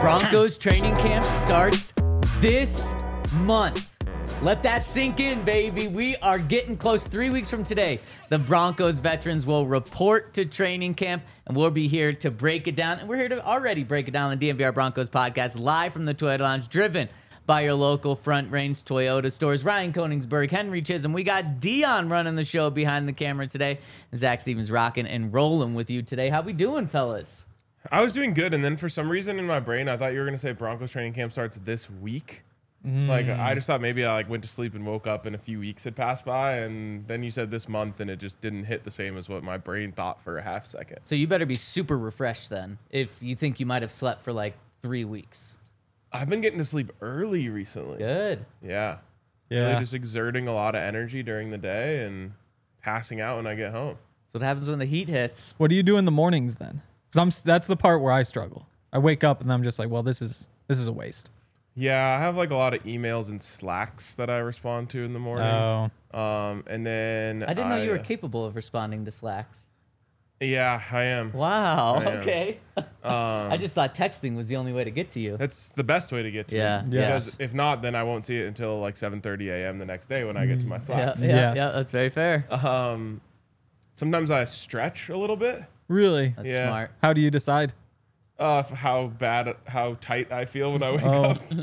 Broncos training camp starts this month. Let that sink in, baby. We are getting close. 3 weeks from today, the Broncos veterans will report to training camp, and we'll be here to break it down. And we're here to already break it down on the DNVR Broncos podcast, live from the Toyota Lounge, driven by your local Front Range Toyota stores. Ryan Koenigsberg, Henry Chisholm. We got Dion running the show behind the camera today. And Zach Stevens rocking and rolling with you today. How we doing, fellas? I was doing good, and then for some reason in my brain, I thought you were going to say Broncos training camp starts this week. Like, I just thought maybe I went to sleep and woke up and a few weeks had passed by, and then you said this month, and it just didn't hit the same as what my brain thought for a half second. So you better be super refreshed then if you think you might have slept for like 3 weeks. I've been getting to sleep early recently. Good. Yeah. Really just exerting a lot of energy during the day and passing out when I get home. That's what happens when the heat hits. What do you do in the mornings then? Because that's the part where I struggle. I wake up and I'm just like, well, this is a waste. Yeah, I have like a lot of emails and Slacks that I respond to in the morning. Oh. And then I didn't know you were capable of responding to Slacks. Yeah, I am. Wow. I am. Okay. I just thought texting was the only way to get to you. That's the best way to get to Yeah. me. Yes. Because if not, then I won't see it until like 7:30 a.m. the next day when I get to my Yeah, Slacks. yeah, Yes. that's very fair. Sometimes I stretch a little bit. Really? That's yeah. smart. How do you decide? How tight I feel when I wake Oh. up.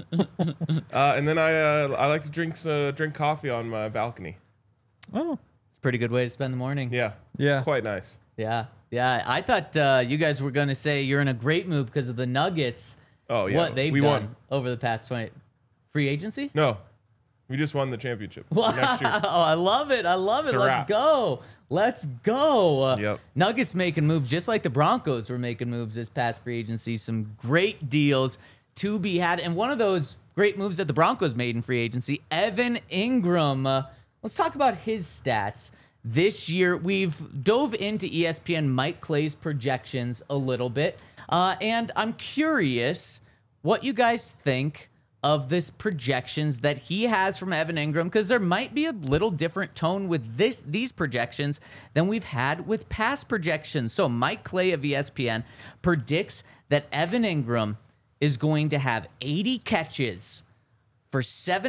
And then I like to drink coffee on my balcony. Oh. It's a pretty good way to spend the morning. Yeah. Yeah. It's quite nice. Yeah. Yeah. I thought you guys were going to say you're in a great mood because of the Nuggets. Oh, yeah. What they've We done won. over the past 20. Free agency? No. We just won the championship. Wow. Next year. I love it. I love it. It's a Let's wrap. go. Let's go. Yep. Nuggets making moves just like the Broncos were making moves this past free agency. Some great deals to be had. And one of those great moves that the Broncos made in free agency, Evan Ingram. Let's talk about his stats. This year, we've dove into ESPN Mike Clay's projections a little bit. And I'm curious what you guys think of this projections that he has from Evan Ingram, because there might be a little different tone with these projections than we've had with past projections. So Mike Clay of ESPN predicts that Evan Ingram is going to have 80 catches for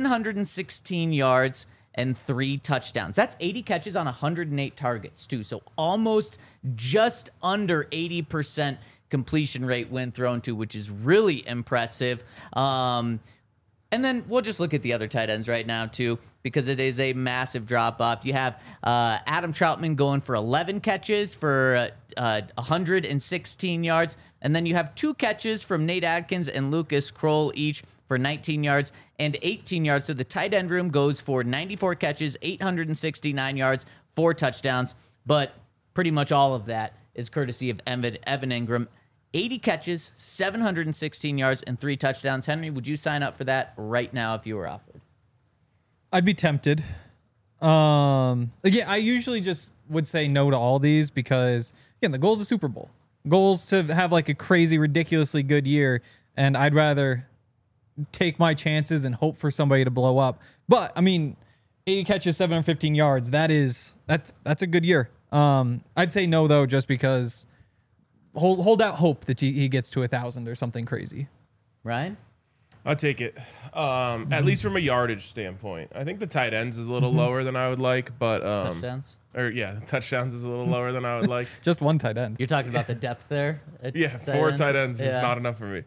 716 yards and 3 touchdowns. That's 80 catches on 108 targets, too. So almost just under 80% completion rate when thrown to, which is really impressive. And then we'll just look at the other tight ends right now, too, because it is a massive drop-off. You have Adam Troutman going for 11 catches for 116 yards. And then you have 2 catches from Nate Adkins and Lucas Kroll each for 19 yards and 18 yards. So the tight end room goes for 94 catches, 869 yards, 4 touchdowns. But pretty much all of that is courtesy of Evan Ingram. 80 catches, 716 yards, and 3 touchdowns. Henry, would you sign up for that right now if you were offered? I'd be tempted. Again, I usually just would say no to all these because, again, the goal is a Super Bowl. Goals to have like a crazy, ridiculously good year, and I'd rather take my chances and hope for somebody to blow up. But, I mean, 80 catches, 715 yards, that's a good year. I'd say no, though, just because hold out hope that he gets to 1,000 or something crazy. Ryan? I'll take it. At least from a yardage standpoint. I think the tight ends is a little lower than I would like, but Touchdowns? the touchdowns is a little lower than I would like. Just one tight end. You're talking about the depth there? At Yeah, tight 4 end? tight ends is Yeah. not enough for me.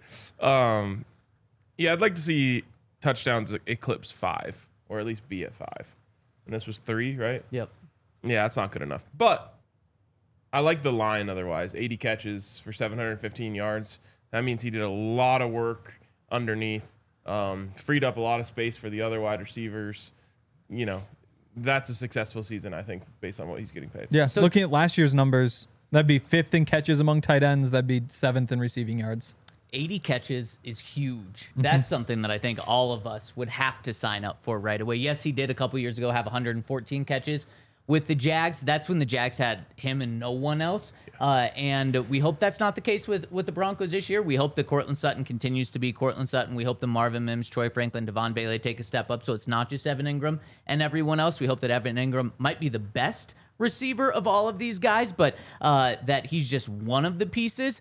I'd like to see touchdowns eclipse 5, or at least be at 5. And this was 3, right? Yep. Yeah, that's not good enough. But I like the line otherwise. 80 catches for 715 yards. That means he did a lot of work underneath, freed up a lot of space for the other wide receivers. You know, that's a successful season, I think, based on what he's getting paid. Yeah, So- looking at last year's numbers, that'd be 5th in catches among tight ends. That'd be 7th in receiving yards. 80 catches is huge. That's something that I think all of us would have to sign up for right away. Yes, he did a couple years ago have 114 catches with the Jags. That's when the Jags had him and no one else. And we hope that's not the case with the Broncos this year. We hope that Cortland Sutton continues to be Cortland Sutton. We hope that Marvin Mims, Troy Franklin, Devon Bailey take a step up so it's not just Evan Ingram and everyone else. We hope that Evan Ingram might be the best receiver of all of these guys, but that he's just one of the pieces.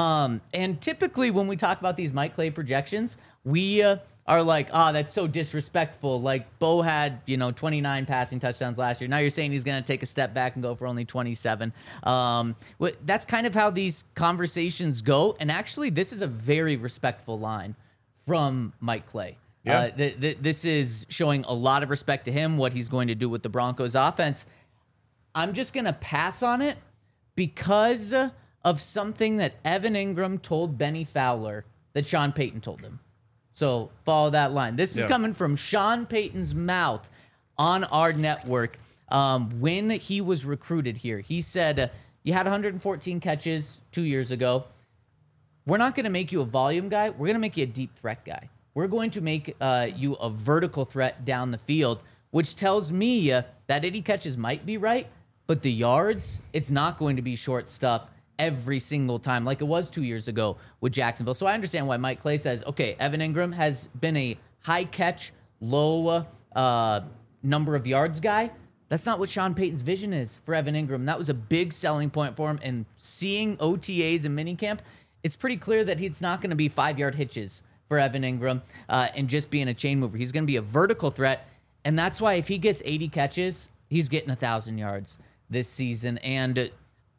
And typically when we talk about these Mike Clay projections, we are like, that's so disrespectful. Like Bo had, 29 passing touchdowns last year. Now you're saying he's going to take a step back and go for only 27. That's kind of how these conversations go. And actually, this is a very respectful line from Mike Clay. Yeah. This is showing a lot of respect to him, what he's going to do with the Broncos offense. I'm just going to pass on it because of something that Evan Ingram told Benny Fowler that Sean Payton told him. So follow that line. This is coming from Sean Payton's mouth on our network. When he was recruited here, he said, you had 114 catches 2 years ago. We're not going to make you a volume guy. We're going to make you a deep threat guy. We're going to make you a vertical threat down the field, which tells me that 80 catches might be right, but the yards, it's not going to be short stuff every single time like it was 2 years ago with Jacksonville. So I understand why Mike Clay says, okay, Evan Ingram has been a high catch, low number of yards guy. That's not what Sean Payton's vision is for Evan Ingram. That was a big selling point for him. And seeing OTAs and minicamp, it's pretty clear that it's not going to be 5-yard hitches for Evan Ingram and just being a chain mover. He's going to be a vertical threat. And that's why if he gets 80 catches, he's getting 1,000 yards this season. And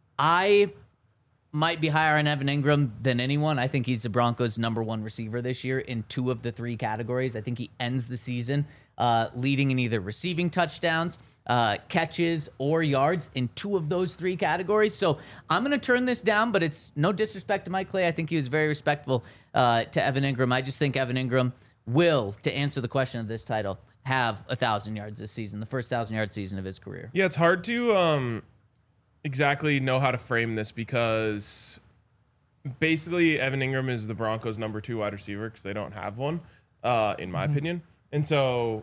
I might be higher on Evan Ingram than anyone. I think he's the Broncos' number one receiver this year in 2 of the 3 categories. I think he ends the season leading in either receiving touchdowns, catches, or yards in 2 of those 3 categories. So I'm going to turn this down, but it's no disrespect to Mike Clay. I think he was very respectful to Evan Ingram. I just think Evan Ingram will, to answer the question of this title, have 1,000 yards this season, the first 1,000-yard season of his career. Yeah, it's hard to exactly know how to frame this because basically Evan Ingram is the Broncos' number 2 wide receiver because they don't have one, in my opinion. And so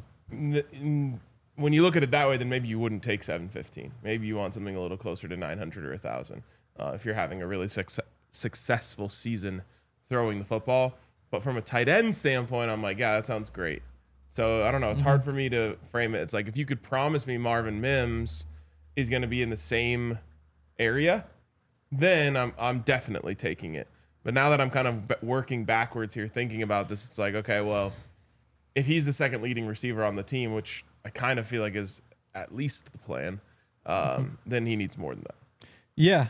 when you look at it that way, then maybe you wouldn't take 715. Maybe you want something a little closer to 900 or 1,000 if you're having a really successful season throwing the football. But from a tight end standpoint, I'm like, yeah, that sounds great. So I don't know. It's hard for me to frame it. It's like if you could promise me Marvin Mims is going to be in the same area, then I'm definitely taking it. But now that I'm kind of working backwards here, thinking about this, it's like, okay, well, if he's the second leading receiver on the team, which I kind of feel like is at least the plan, then he needs more than that. Yeah.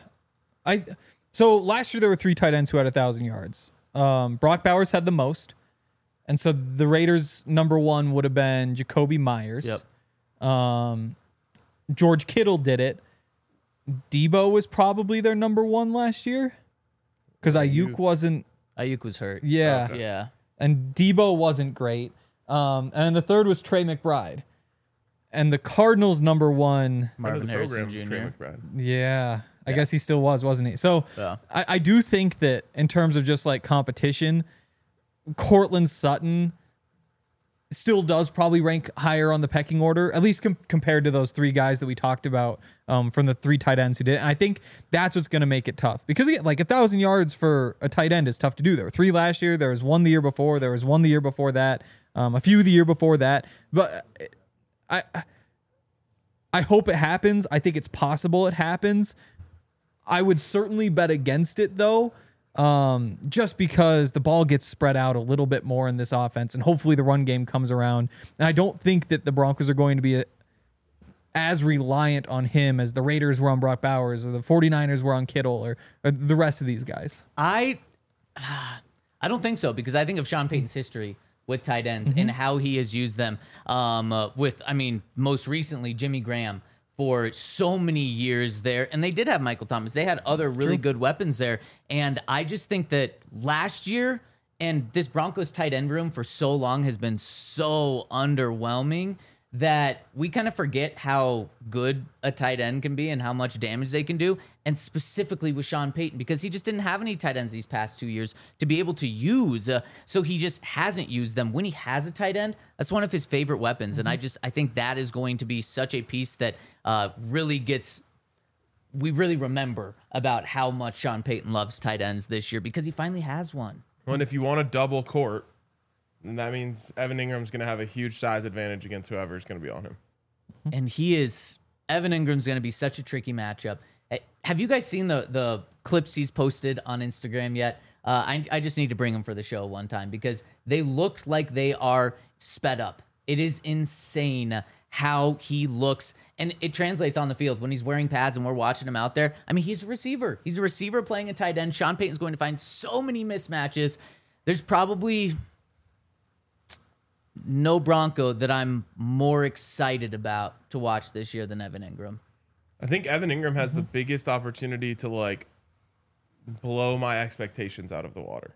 So last year there were 3 tight ends who had 1,000 yards. Brock Bowers had the most. And so the Raiders' number 1 would have been Jacoby Myers. Yep. George Kittle did it. Debo was probably their number 1 last year because Ayuk wasn't. Ayuk was hurt. Yeah. Okay. Yeah. And Debo wasn't great. And the third was Trey McBride. And the Cardinals' number 1. Marvin Harrison Trey Jr. McBride. Yeah. I guess he still was, wasn't he? So Yeah. I do think that in terms of just like competition, Cortland Sutton still does probably rank higher on the pecking order, at least compared to those 3 guys that we talked about from the 3 tight ends who did. And I think that's what's going to make it tough because again, like 1,000 yards for a tight end is tough to do. There were 3 last year. There was 1 the year before. There was 1 the year before that. A few the year before that. But I hope it happens. I think it's possible it happens. I would certainly bet against it though. Just because the ball gets spread out a little bit more in this offense and hopefully the run game comes around. And I don't think that the Broncos are going to be as reliant on him as the Raiders were on Brock Bowers or the 49ers were on Kittle or the rest of these guys. I don't think so because I think of Sean Payton's history with tight ends and how he has used them most recently Jimmy Graham for so many years there. And they did have Michael Thomas. They had other really good weapons there. And I just think that last year and this Broncos tight end room for so long has been so underwhelming that we kind of forget how good a tight end can be and how much damage they can do. And specifically with Sean Payton, because he just didn't have any tight ends these past 2 years to be able to use. So he just hasn't used them. When he has a tight end, that's one of his favorite weapons. And I think that is going to be such a piece that we really remember about how much Sean Payton loves tight ends this year because he finally has one. Well, and if you want a double court, then that means Evan Ingram's going to have a huge size advantage against whoever's going to be on him. And he is Evan Ingram's going to be such a tricky matchup. Have you guys seen the clips he's posted on Instagram yet? I just need to bring them for the show one time because they look like they are sped up. It is insane how he looks, and it translates on the field when he's wearing pads and we're watching him out there. I mean, he's a receiver. He's a receiver playing a tight end. Sean Payton's going to find so many mismatches. There's probably no Bronco that I'm more excited about to watch this year than Evan Ingram. I think Evan Ingram has the biggest opportunity to like blow my expectations out of the water.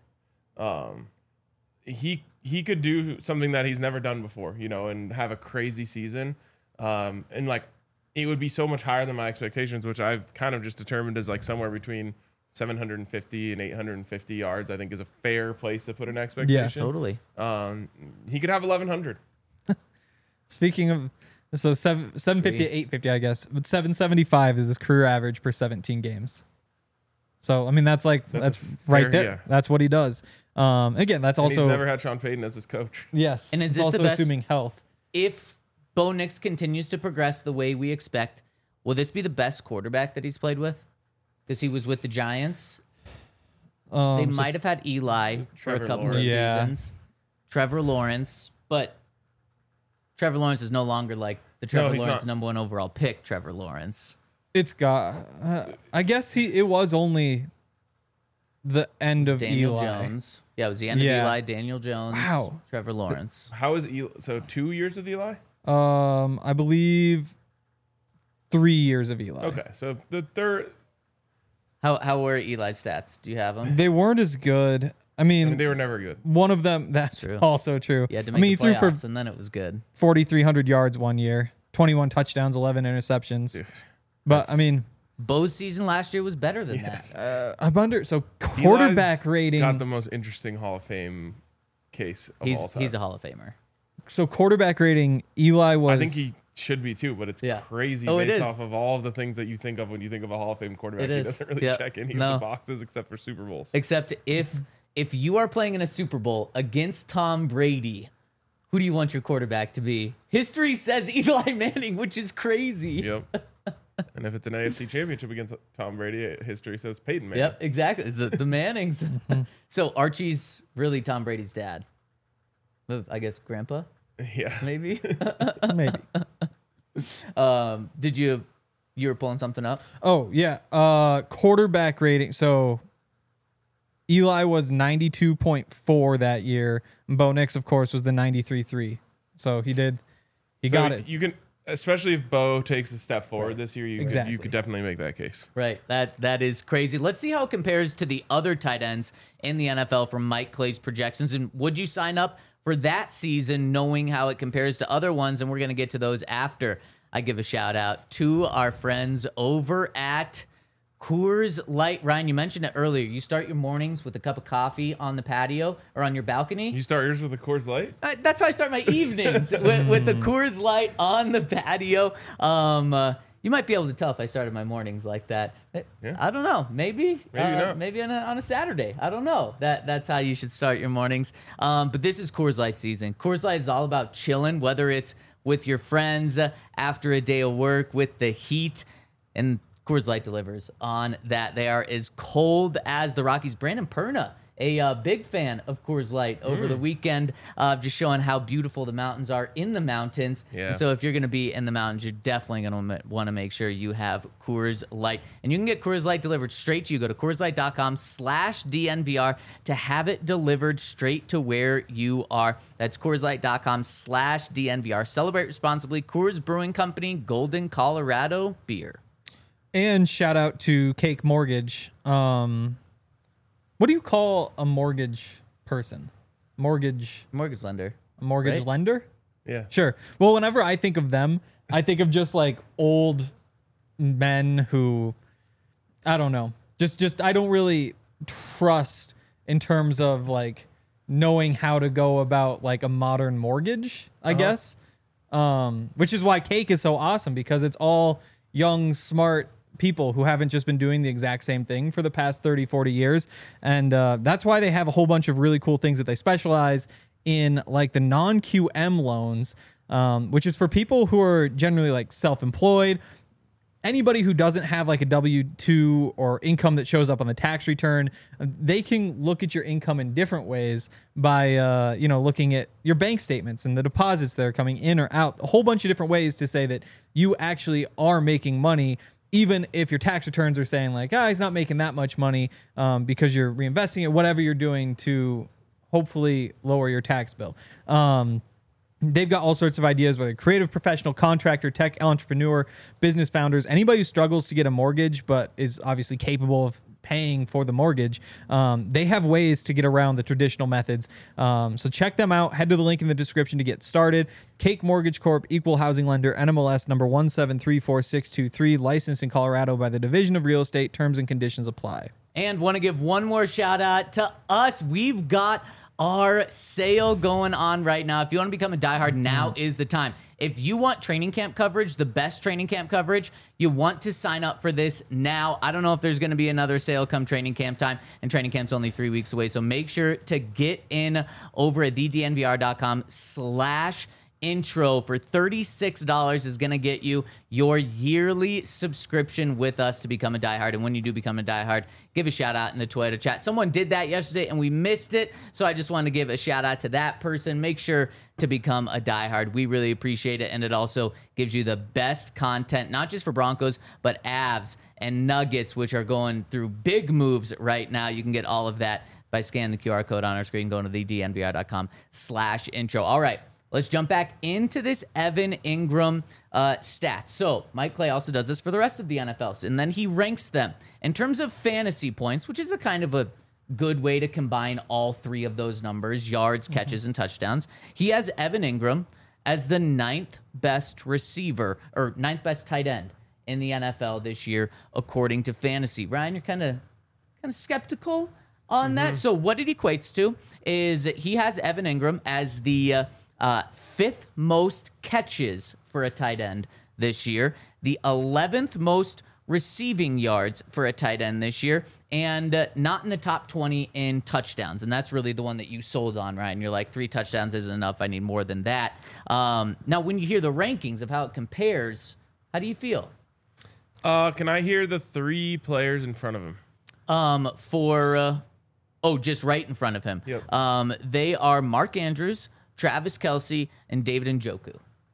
He could do something that he's never done before, you know, and have a crazy season. And like it would be so much higher than my expectations, which I've kind of just determined as like somewhere between 750 and 850 yards, I think is a fair place to put an expectation. Yeah, totally. He could have 1100. Speaking of, so 750 to 850, I guess, but 775 is his career average per 17 games. So, I mean, that's right fair, there. yeah. That's what he does. Again, that's And also, he's never had Sean Payton as his coach. yes. And is it's this also the best- assuming health. If Bo Nix continues to progress the way we expect, will this be the best quarterback that he's played with? Because he was with the Giants. They might have had Eli for a Trevor couple Lawrence. of Yeah. seasons. Trevor Lawrence, but Trevor Lawrence is no longer like the Trevor he's Lawrence not. #1 overall pick. Trevor Lawrence. It's got, I guess it was only the end of Daniel Eli. Jones. Yeah, it was the end Yeah. of Eli, Daniel Jones, Wow. Trevor Lawrence. How is Eli? So 2 years with Eli? I believe 3 years of Eli. Okay, so the third. How were Eli's stats? Do you have them? They weren't as good. I I mean, mean, they were never good. one of them, that's True. also true. You had to I make mean, he the threw for playoffs, and then it was good. 4,300 yards one year, 21 touchdowns, 11 interceptions. Dude, But I mean, Bo's season last year was better than Yes. that. I wonder. So quarterback Eli's rating. got the most interesting Hall of Fame case of all time. He's a Hall of Famer. So quarterback rating. Eli was. I think he should be too, but it's Yeah. crazy Oh, it based is. off of all of the things that you think of when you think of a Hall of Fame quarterback. It He is. doesn't really Yeah. check any No. of the boxes except for Super Bowls. Except if you are playing in a Super Bowl against Tom Brady, who do you want your quarterback to be? History says Eli Manning, which is crazy. Yep. And if it's an AFC championship against Tom Brady, history says Peyton Manning. Yep, exactly. The Mannings. So Archie's really Tom Brady's dad. I guess grandpa, Yeah. maybe. maybe. Did you were pulling something up? Oh yeah. Quarterback rating. So Eli was 92.4 that year. Bo Nix, of course, was the 93.3. So he So got it. You can, especially if Bo takes a step forward this year, you Exactly. could definitely make that case. Right. That is crazy. Let's see how it compares to the other tight ends in the NFL from Mike Clay's projections. And would you sign up for that season knowing how it compares to other ones? And we're going to get to those after I give a shout out to our friends over at Coors Light. Ryan, you mentioned it earlier. You start your mornings with a cup of coffee on the patio or on your balcony. You start yours with a Coors Light? That's how I start my evenings with the Coors Light on the patio. You might be able to tell if I started my mornings like that. Yeah. I don't know. Maybe not. Maybe on a Saturday. I don't know. That's how you should start your mornings. But this is Coors Light season. Coors Light is all about chilling, whether it's with your friends after a day of work, with the heat, and Coors Light delivers on that. They are as cold as the Rockies. Brandon Perna, a big fan of Coors Light over the weekend, just showing how beautiful the mountains are in the mountains. Yeah. And so if you're going to be in the mountains, you're definitely going to want to make sure you have Coors Light. And you can get Coors Light delivered straight to you. Go to CoorsLight.com/DNVR to have it delivered straight to where you are. That's CoorsLight.com/DNVR. Celebrate responsibly. Coors Brewing Company, Golden, Colorado beer. And shout out to Cake Mortgage. What do you call a mortgage person? Mortgage Lender. Right? lender? Yeah. Sure. Well, whenever I think of them, I think of just like old men who, I don't know, just I don't really trust in terms of like knowing how to go about like a modern mortgage, I guess. Which is why Cake is so awesome, because it's all young, smart people who haven't just been doing the exact same thing for the past 30, 40 years. And that's why they have a whole bunch of really cool things that they specialize in, like the non-QM loans, which is for people who are generally like self-employed, anybody who doesn't have like a W-2 or income that shows up on the tax return, they can look at your income in different ways by, looking at your bank statements and the deposits that are coming in or out, a whole bunch of different ways to say that you actually are making money, even if your tax returns are saying like, he's not making that much money because you're reinvesting it, whatever you're doing to hopefully lower your tax bill. They've got all sorts of ideas, whether creative professional, contractor, tech entrepreneur, business founders, anybody who struggles to get a mortgage but is obviously capable of paying for the mortgage. They have ways to get around the traditional methods. So check them out. Head to the link in the description to get started. Cake Mortgage Corp, equal housing lender, NMLS number 1734623, licensed in Colorado by the Division of Real Estate. Terms and conditions apply. And want to give one more shout out to us. We've got our sale going on right now. If you want to become a diehard, now is the time. If you want training camp coverage, the best training camp coverage, you want to sign up for this now. I don't know if there's going to be another sale come training camp time, and training camp's only 3 weeks away. So make sure to get in over at thednvr.com/intro for $36 is going to get you your yearly subscription with us to become a diehard. And when you do become a diehard, give a shout out in the Twitter chat. Someone did that yesterday and we missed it, so I just wanted to give a shout out to that person. Make sure to become a diehard. We really appreciate it, and it also gives you the best content, not just for Broncos, but Avs and Nuggets, which are going through big moves right now. You can get all of that by scanning the QR code on our screen, going to thednvr.com/intro. All right. Let's jump back into this Evan Ingram stats. So Mike Clay also does this for the rest of the NFL, and then he ranks them in terms of fantasy points, which is a kind of a good way to combine all three of those numbers, yards, catches, and touchdowns. He has Evan Ingram as the 9th best receiver, or 9th best tight end in the NFL this year, according to fantasy. Ryan, you're kind of skeptical on that. So what it equates to is he has Evan Ingram as the 5th most catches for a tight end this year, the 11th most receiving yards for a tight end this year, and not in the top 20 in touchdowns. And that's really the one that you sold on, Ryan. You're like, 3 touchdowns isn't enough. I need more than that. Now, when you hear the rankings of how it compares, how do you feel? Can I hear the 3 players in front of him? Just right in front of him. Yep. They are Mark Andrews, Travis Kelce, and David Njoku.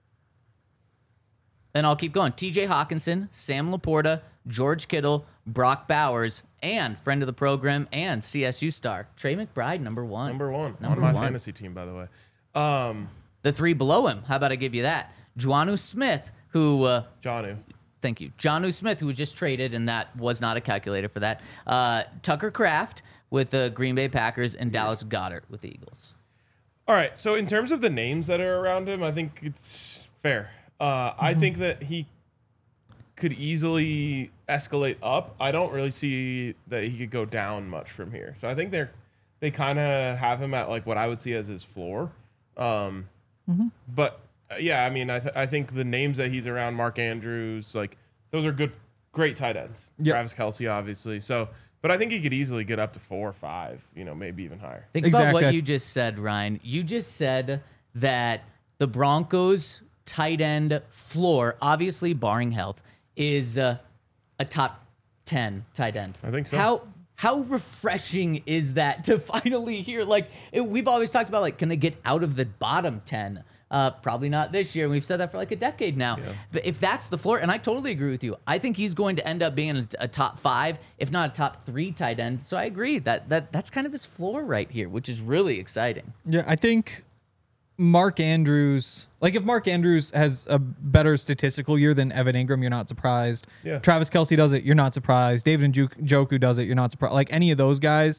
And I'll keep going. TJ Hawkinson, Sam Laporta, George Kittle, Brock Bowers, and friend of the program and CSU star, Trey McBride, number 1. Number 1 on my fantasy team, by the way. The 3 below him, how about I give you that? Jonnu Smith, who... Jonnu. Thank you. Jonnu Smith, who was just traded, and that was not a calculator for that. Tucker Kraft with the Green Bay Packers, and Dallas Goedert with the Eagles. All right, so in terms of the names that are around him, I think it's fair. I think that he could easily escalate up. I don't really see that he could go down much from here. So I think they kind of have him at like what I would see as his floor. But yeah, I mean, I think the names that he's around, Mark Andrews, like those are great tight ends. Yep. Travis Kelce, obviously. So. But I think he could easily get up to 4 or 5, maybe even higher. Think about what you just said, Ryan. You just said that the Broncos' tight end floor, obviously barring health, is a top 10 tight end. I think so. How refreshing is that to finally hear? Like, we've always talked about, like, can they get out of the bottom 10? Probably not this year. We've said that for like a decade now. Yeah. If that's the floor, and I totally agree with you, I think he's going to end up being a top 5, if not a top 3 tight end. So I agree that's kind of his floor right here, which is really exciting. Yeah, I think Mark Andrews, like if Mark Andrews has a better statistical year than Evan Ingram, you're not surprised. Yeah. Travis Kelce does it, you're not surprised. David Njoku does it, you're not surprised. Like any of those guys,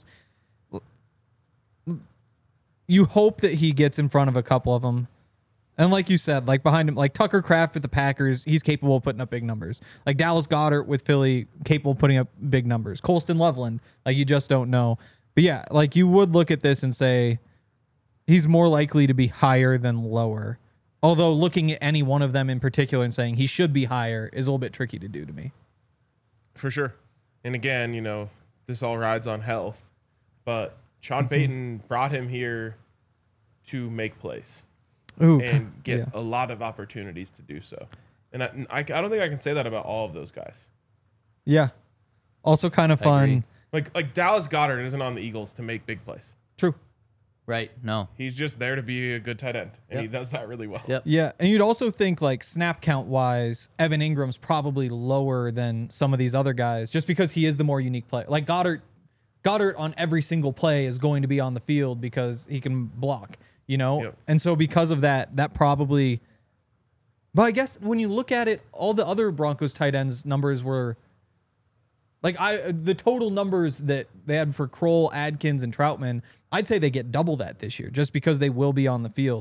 you hope that he gets in front of a couple of them. And like you said, like behind him, like Tucker Kraft with the Packers, he's capable of putting up big numbers. Like Dallas Goedert with Philly, capable of putting up big numbers. Colston Loveland, like you just don't know. But yeah, like you would look at this and say he's more likely to be higher than lower. Although looking at any one of them in particular and saying he should be higher is a little bit tricky to do to me. For sure. And again, this all rides on health. But Sean Payton brought him here to make plays. Ooh, and get a lot of opportunities to do so. And I don't think I can say that about all of those guys. Yeah. Also kind of fun. Like Dallas Goedert isn't on the Eagles to make big plays. True. Right. No. He's just there to be a good tight end, and he Yep. does that really well. Yep. Yeah, and you'd also think like snap count wise, Evan Ingram's probably lower than some of these other guys, just because he is the more unique player. Like Goddard on every single play is going to be on the field because he can block, you know? Yep. And so because of that probably. But I guess when you look at it, all the other Broncos tight ends numbers were like the total numbers that they had for Kroll, Adkins, and Troutman, I'd say they get double that this year just because they will be on the field.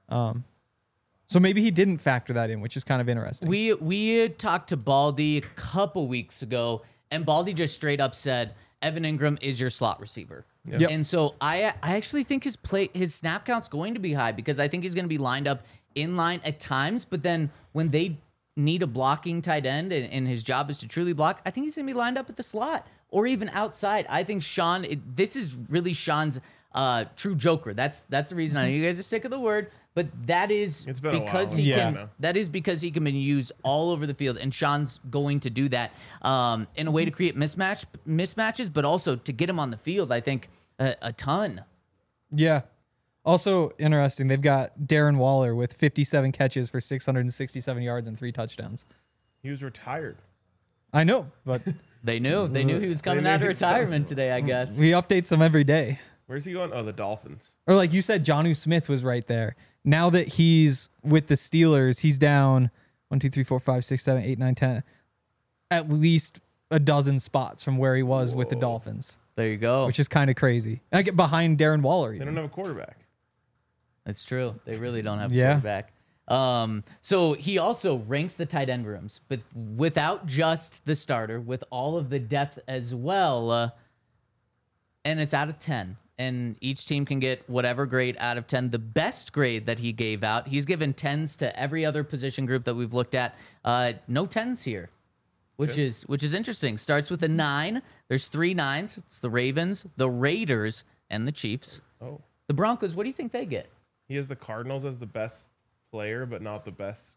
So maybe he didn't factor that in, which is kind of interesting. We had talked to Baldy a couple weeks ago, and Baldy just straight up said Evan Ingram is your slot receiver. Yep. And so I actually think his snap count's going to be high because I think he's going to be lined up in line at times, but then when they need a blocking tight end and his job is to truly block, I think he's going to be lined up at the slot or even outside. I think this is really Sean's true joker. That's the reason. I know you guys are sick of the word, but that is It's been a because while. he Yeah. can. That is because he can be used all over the field, and Sean's going to do that in a way to create mismatches, but also to get him on the field. I think a ton. Yeah. Also interesting, they've got Darren Waller with 57 catches for 667 yards and 3 touchdowns. He was retired. I know, but They knew he was coming knew out of he was retirement coming. today, I guess. we update them every day. Where's he going? Oh, the Dolphins. Or like you said, Jonnu Smith was right there. Now that he's with the Steelers, he's down 1, 2, 3, 4, 5, 6, 7, 8, 9, 10. At least a dozen spots from where he was with the Dolphins, There you go. which is kind of crazy. And I get behind Darren Waller. They Even. don't have a quarterback. That's true. They really don't have a Yeah. quarterback. So he also ranks the tight end rooms, but without just the starter, with all of the depth as well. And it's out of 10. And each team can get whatever grade out of 10. The best grade that he gave out, he's given 10s to every other position group that we've looked at. No 10s here, which is interesting. Starts with a 9. There's 3 9s. It's the Ravens, the Raiders, and the Chiefs. Oh, The Broncos, what do you think they get? he has the Cardinals as the best player, but not the best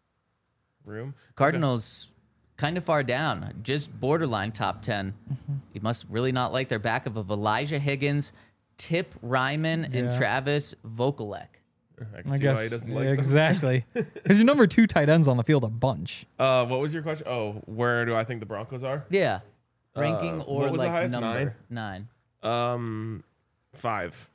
room. Cardinals kind of far down, just borderline top 10. You must really not like their backup of Elijah Higgins, Tip Ryman, and Yeah. Travis Vokalek. I can I see why he guess doesn't like them. exactly because your number 2 tight ends on the field a bunch. What was your question? Oh, where do I think the Broncos are? Yeah. Ranking or what was the like highest? number? 9? 9. 5.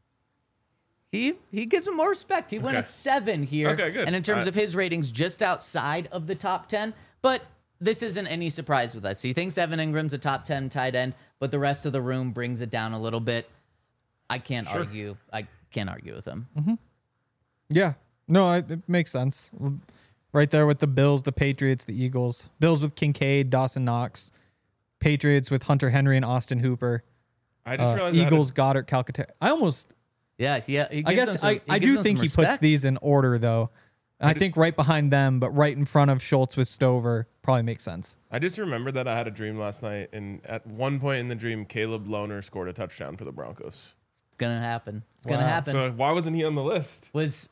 He gives him more respect. He went a Okay. 7 here. Okay, good. And in terms of his ratings, just outside of the top 10. But this isn't any surprise with us. He thinks Evan Ingram's a top 10 tight end, but the rest of the room brings it down a little bit. I can't argue. I can't argue with him. Yeah, no, it makes sense. Right there with the Bills, the Patriots, the Eagles. Bills with Kincaid, Dawson Knox. Patriots with Hunter Henry and Austin Hooper. I just realized Eagles, Goddard, Calcaterra. I almost. Yeah. He I gives them guess some- I gives do them think some he puts respect. these in order though. I think right behind them, but right in front of Schultz with Stover probably makes sense. I just remembered that I had a dream last night, and at one point in the dream, Caleb Lohner scored a touchdown for the Broncos. Gonna happen. It's gonna Wow. happen. So why wasn't he on the list? Was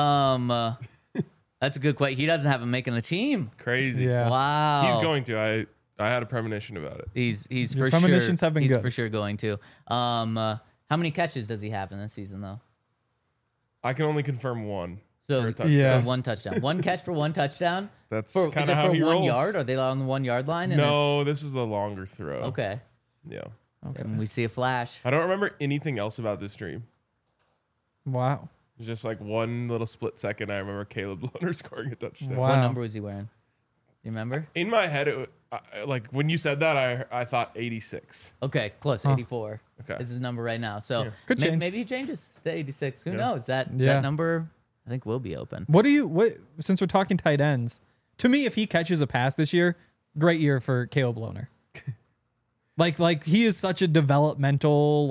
that's a good question. He doesn't have him making the team. Crazy. Yeah. Wow. He's going to. I had a premonition about it. He's Your for sure. premonitions have been he's good. for sure going to. How many catches does he have in this season though? I can only confirm one. So, for a touchdown. Yeah. so 1 touchdown. 1 catch for 1 touchdown. That's Is kind it of how for he 1 rolls. yard? Are they on the 1 yard line? And No, this is a longer throw. it's- okay. Yeah. And we see a flash. I don't remember anything else about this dream. Wow. It's just like one little split second. I remember Caleb Lohner scoring a touchdown. Wow. What number was he wearing? You remember? In my head, like when you said that, I thought 86. Okay, close. 84 Okay. is his number right now. So Could change. maybe he changes to 86. Who Yeah. knows? That Yeah. number I think will be open. What since we're talking tight ends, to me, if he catches a pass this year, great year for Caleb Lohner. like he is such a developmental,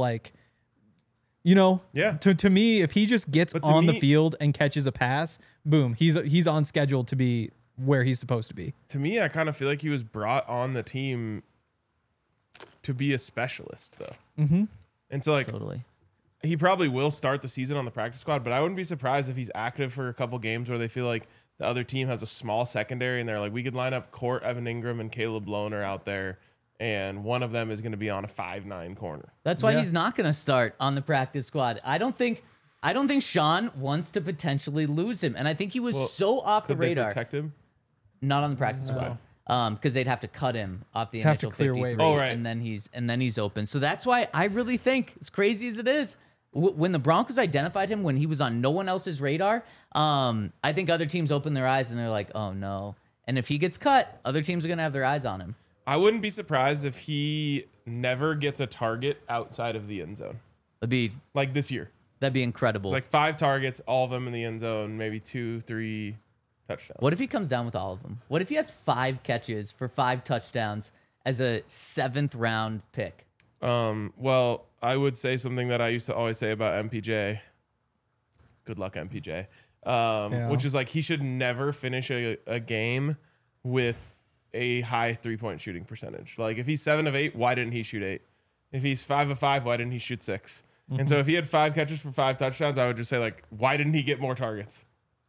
Yeah. To me, if he just gets But to on the me- field and catches a pass, boom, he's on schedule to be where he's supposed to be. To me, I kind of feel like he was brought on the team to be a specialist, though. Mm-hmm. And so, like, Totally. he probably will start the season on the practice squad, but I wouldn't be surprised if he's active for a couple games where they feel like the other team has a small secondary, and they're like, we could line up Court, Evan Ingram, and Caleb Lohner out there, and one of them is going to be on a 5'9" corner. That's why Yeah. he's not going to start on the practice squad. I don't think Sean wants to potentially lose him, and I think he was so off the Could they radar. protect him? Not on the practice squad. Because they'd have to cut him off the Have to initial clear 53, waivers. Oh, right. and then he's open. So that's why I really think, as crazy as it is, when the Broncos identified him when he was on no one else's radar, I think other teams open their eyes and they're like, oh no. And if he gets cut, other teams are gonna have their eyes on him. I wouldn't be surprised if he never gets a target outside of the end zone, like this year. That'd be incredible. It's like 5 targets, all of them in the end zone, maybe 2, 3 touchdowns. What if he comes down with all of them? What if he has 5 catches for 5 touchdowns as a 7th round pick? Well, I would say something that I used to always say about MPJ. Good luck, MPJ. Which is like he should never finish a game with a high 3-point shooting percentage. Like if he's 7 of 8, why didn't he shoot 8? If he's 5 of 5, why didn't he shoot 6? And so if he had 5 catches for 5 touchdowns, I would just say like, why didn't he get more targets?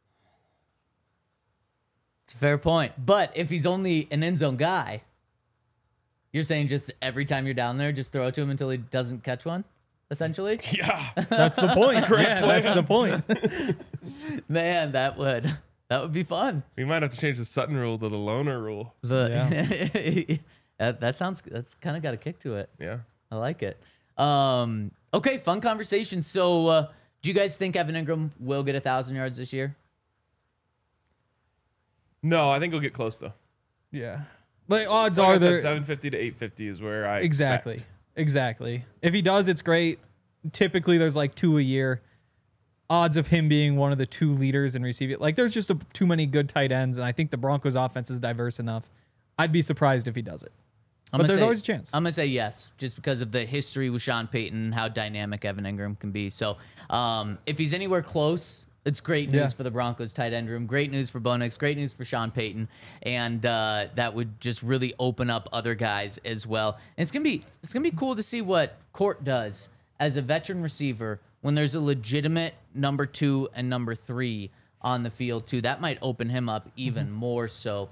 It's a fair point. But if he's only an end zone guy, you're saying just every time you're down there, just throw it to him until he doesn't catch one, essentially? Yeah. That's the point. That's the point. Man, that would be fun. We might have to change the Sutton rule to the loner rule. That's kind of got a kick to it. Yeah. I like it. Okay, fun conversation. So, do you guys think Evan Ingram will get 1,000 yards this year? No, I think he'll get close though. Yeah. Like odds Like are I said, there 750 to 850 is where I exactly. expect. Exactly. If he does, it's great. Typically there's like 2 a year. Odds of him being one of the 2 leaders in receiving, like there's just too many good tight ends, and I think the Broncos offense is diverse enough. I'd be surprised if he does it. But there's always a chance. I'm going to say yes, just because of the history with Sean Payton, how dynamic Evan Ingram can be. So if he's anywhere close, it's great news for the Broncos tight end room. Great news for Bo Nix. Great news for Sean Payton. And that would just really open up other guys as well. And it's gonna be cool to see what Court does as a veteran receiver when there's a legitimate number 2 and number 3 on the field too. That might open him up even more so.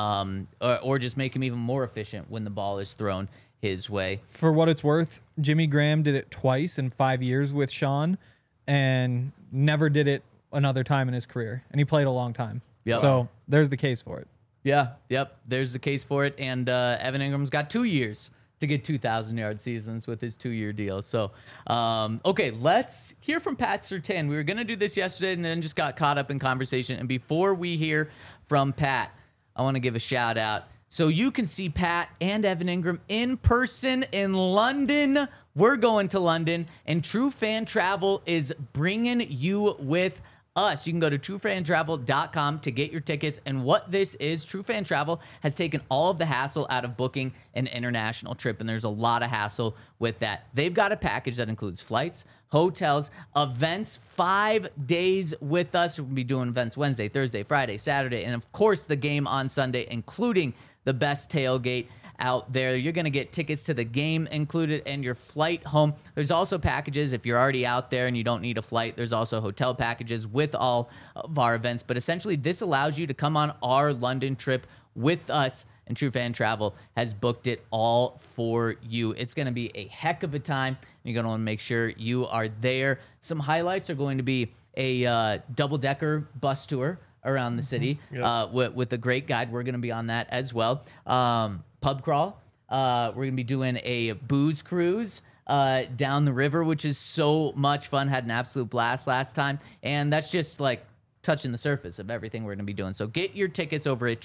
Or just make him even more efficient when the ball is thrown his way. For what it's worth, Jimmy Graham did it twice in 5 years with Sean and never did it another time in his career. And he played a long time. Yep. So there's the case for it. Yeah, yep. There's the case for it. And Evan Ingram's got 2 years to get 2,000-yard seasons with his 2-year deal. So, okay, let's hear from Pat Surtain. We were going to do this yesterday and then just got caught up in conversation. And before we hear from Pat, I want to give a shout out. So you can see Pat and Evan Ingram in person in London. We're going to London, and True Fan Travel is bringing you with us. You can go to truefantravel.com to get your tickets. And what this is, True Fan Travel has taken all of the hassle out of booking an international trip, and there's a lot of hassle with that. They've got a package that includes flights, hotels, events, 5 days with us. We'll be doing events Wednesday, Thursday, Friday, Saturday, and of course the game on Sunday, including the best tailgate out there. You're going to get tickets to the game included and your flight home. There's also packages if you're already out there and you don't need a flight. There's also hotel packages with all of our events. But essentially, this allows you to come on our London trip with us, and True Fan Travel has booked it all for you. It's going to be a heck of a time. You're going to want to make sure you are there. Some highlights are going to be a double-decker bus tour around the city with a great guide. We're going to be on that as well. Pub crawl. We're going to be doing a booze cruise down the river, which is so much fun. Had an absolute blast last time. And that's just like touching the surface of everything we're going to be doing. So get your tickets over at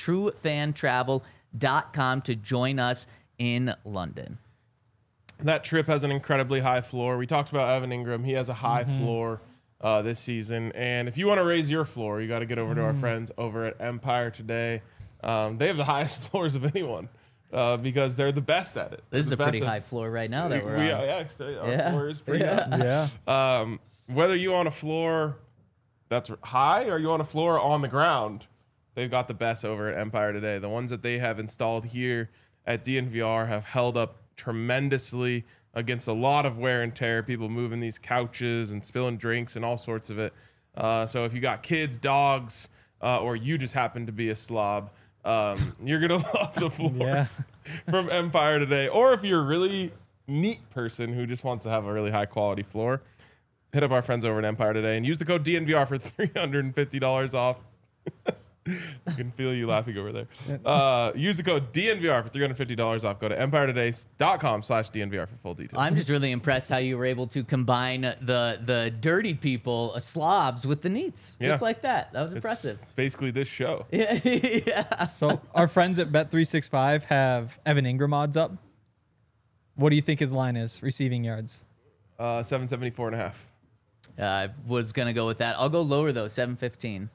truefantravel.com to join us in London. That trip has an incredibly high floor. We talked about Evan Ingram. He has a high floor this season. And if you want to raise your floor, you got to get over to our friends over at Empire Today. They have the highest floors of anyone. Because they're the best at it. This is a pretty high floor right now that we're on. Our floor is pretty Yeah. high. Whether you on a floor that's high or you on a floor on the ground, they've got the best over at Empire Today. The ones that they have installed here at DNVR have held up tremendously against a lot of wear and tear, people moving these couches and spilling drinks and all sorts of it. So if you got kids, dogs, or you just happen to be a slob, you're going to love the floors from Empire Today. Or if you're a really neat person who just wants to have a really high quality floor, hit up our friends over at Empire Today and use the code DNVR for $350 off. I can feel you laughing over there. Use the code DNVR for $350 off. Go to empiretoday.com/DNVR for full details. I'm just really impressed how you were able to combine the dirty people, slobs, with the neats. Just like that. That was impressive. It's basically this show. Yeah. So our friends at Bet365 have Evan Ingram odds up. What do you think his line is, receiving yards? 774.5. I was going to go with that. I'll go lower, though, 715.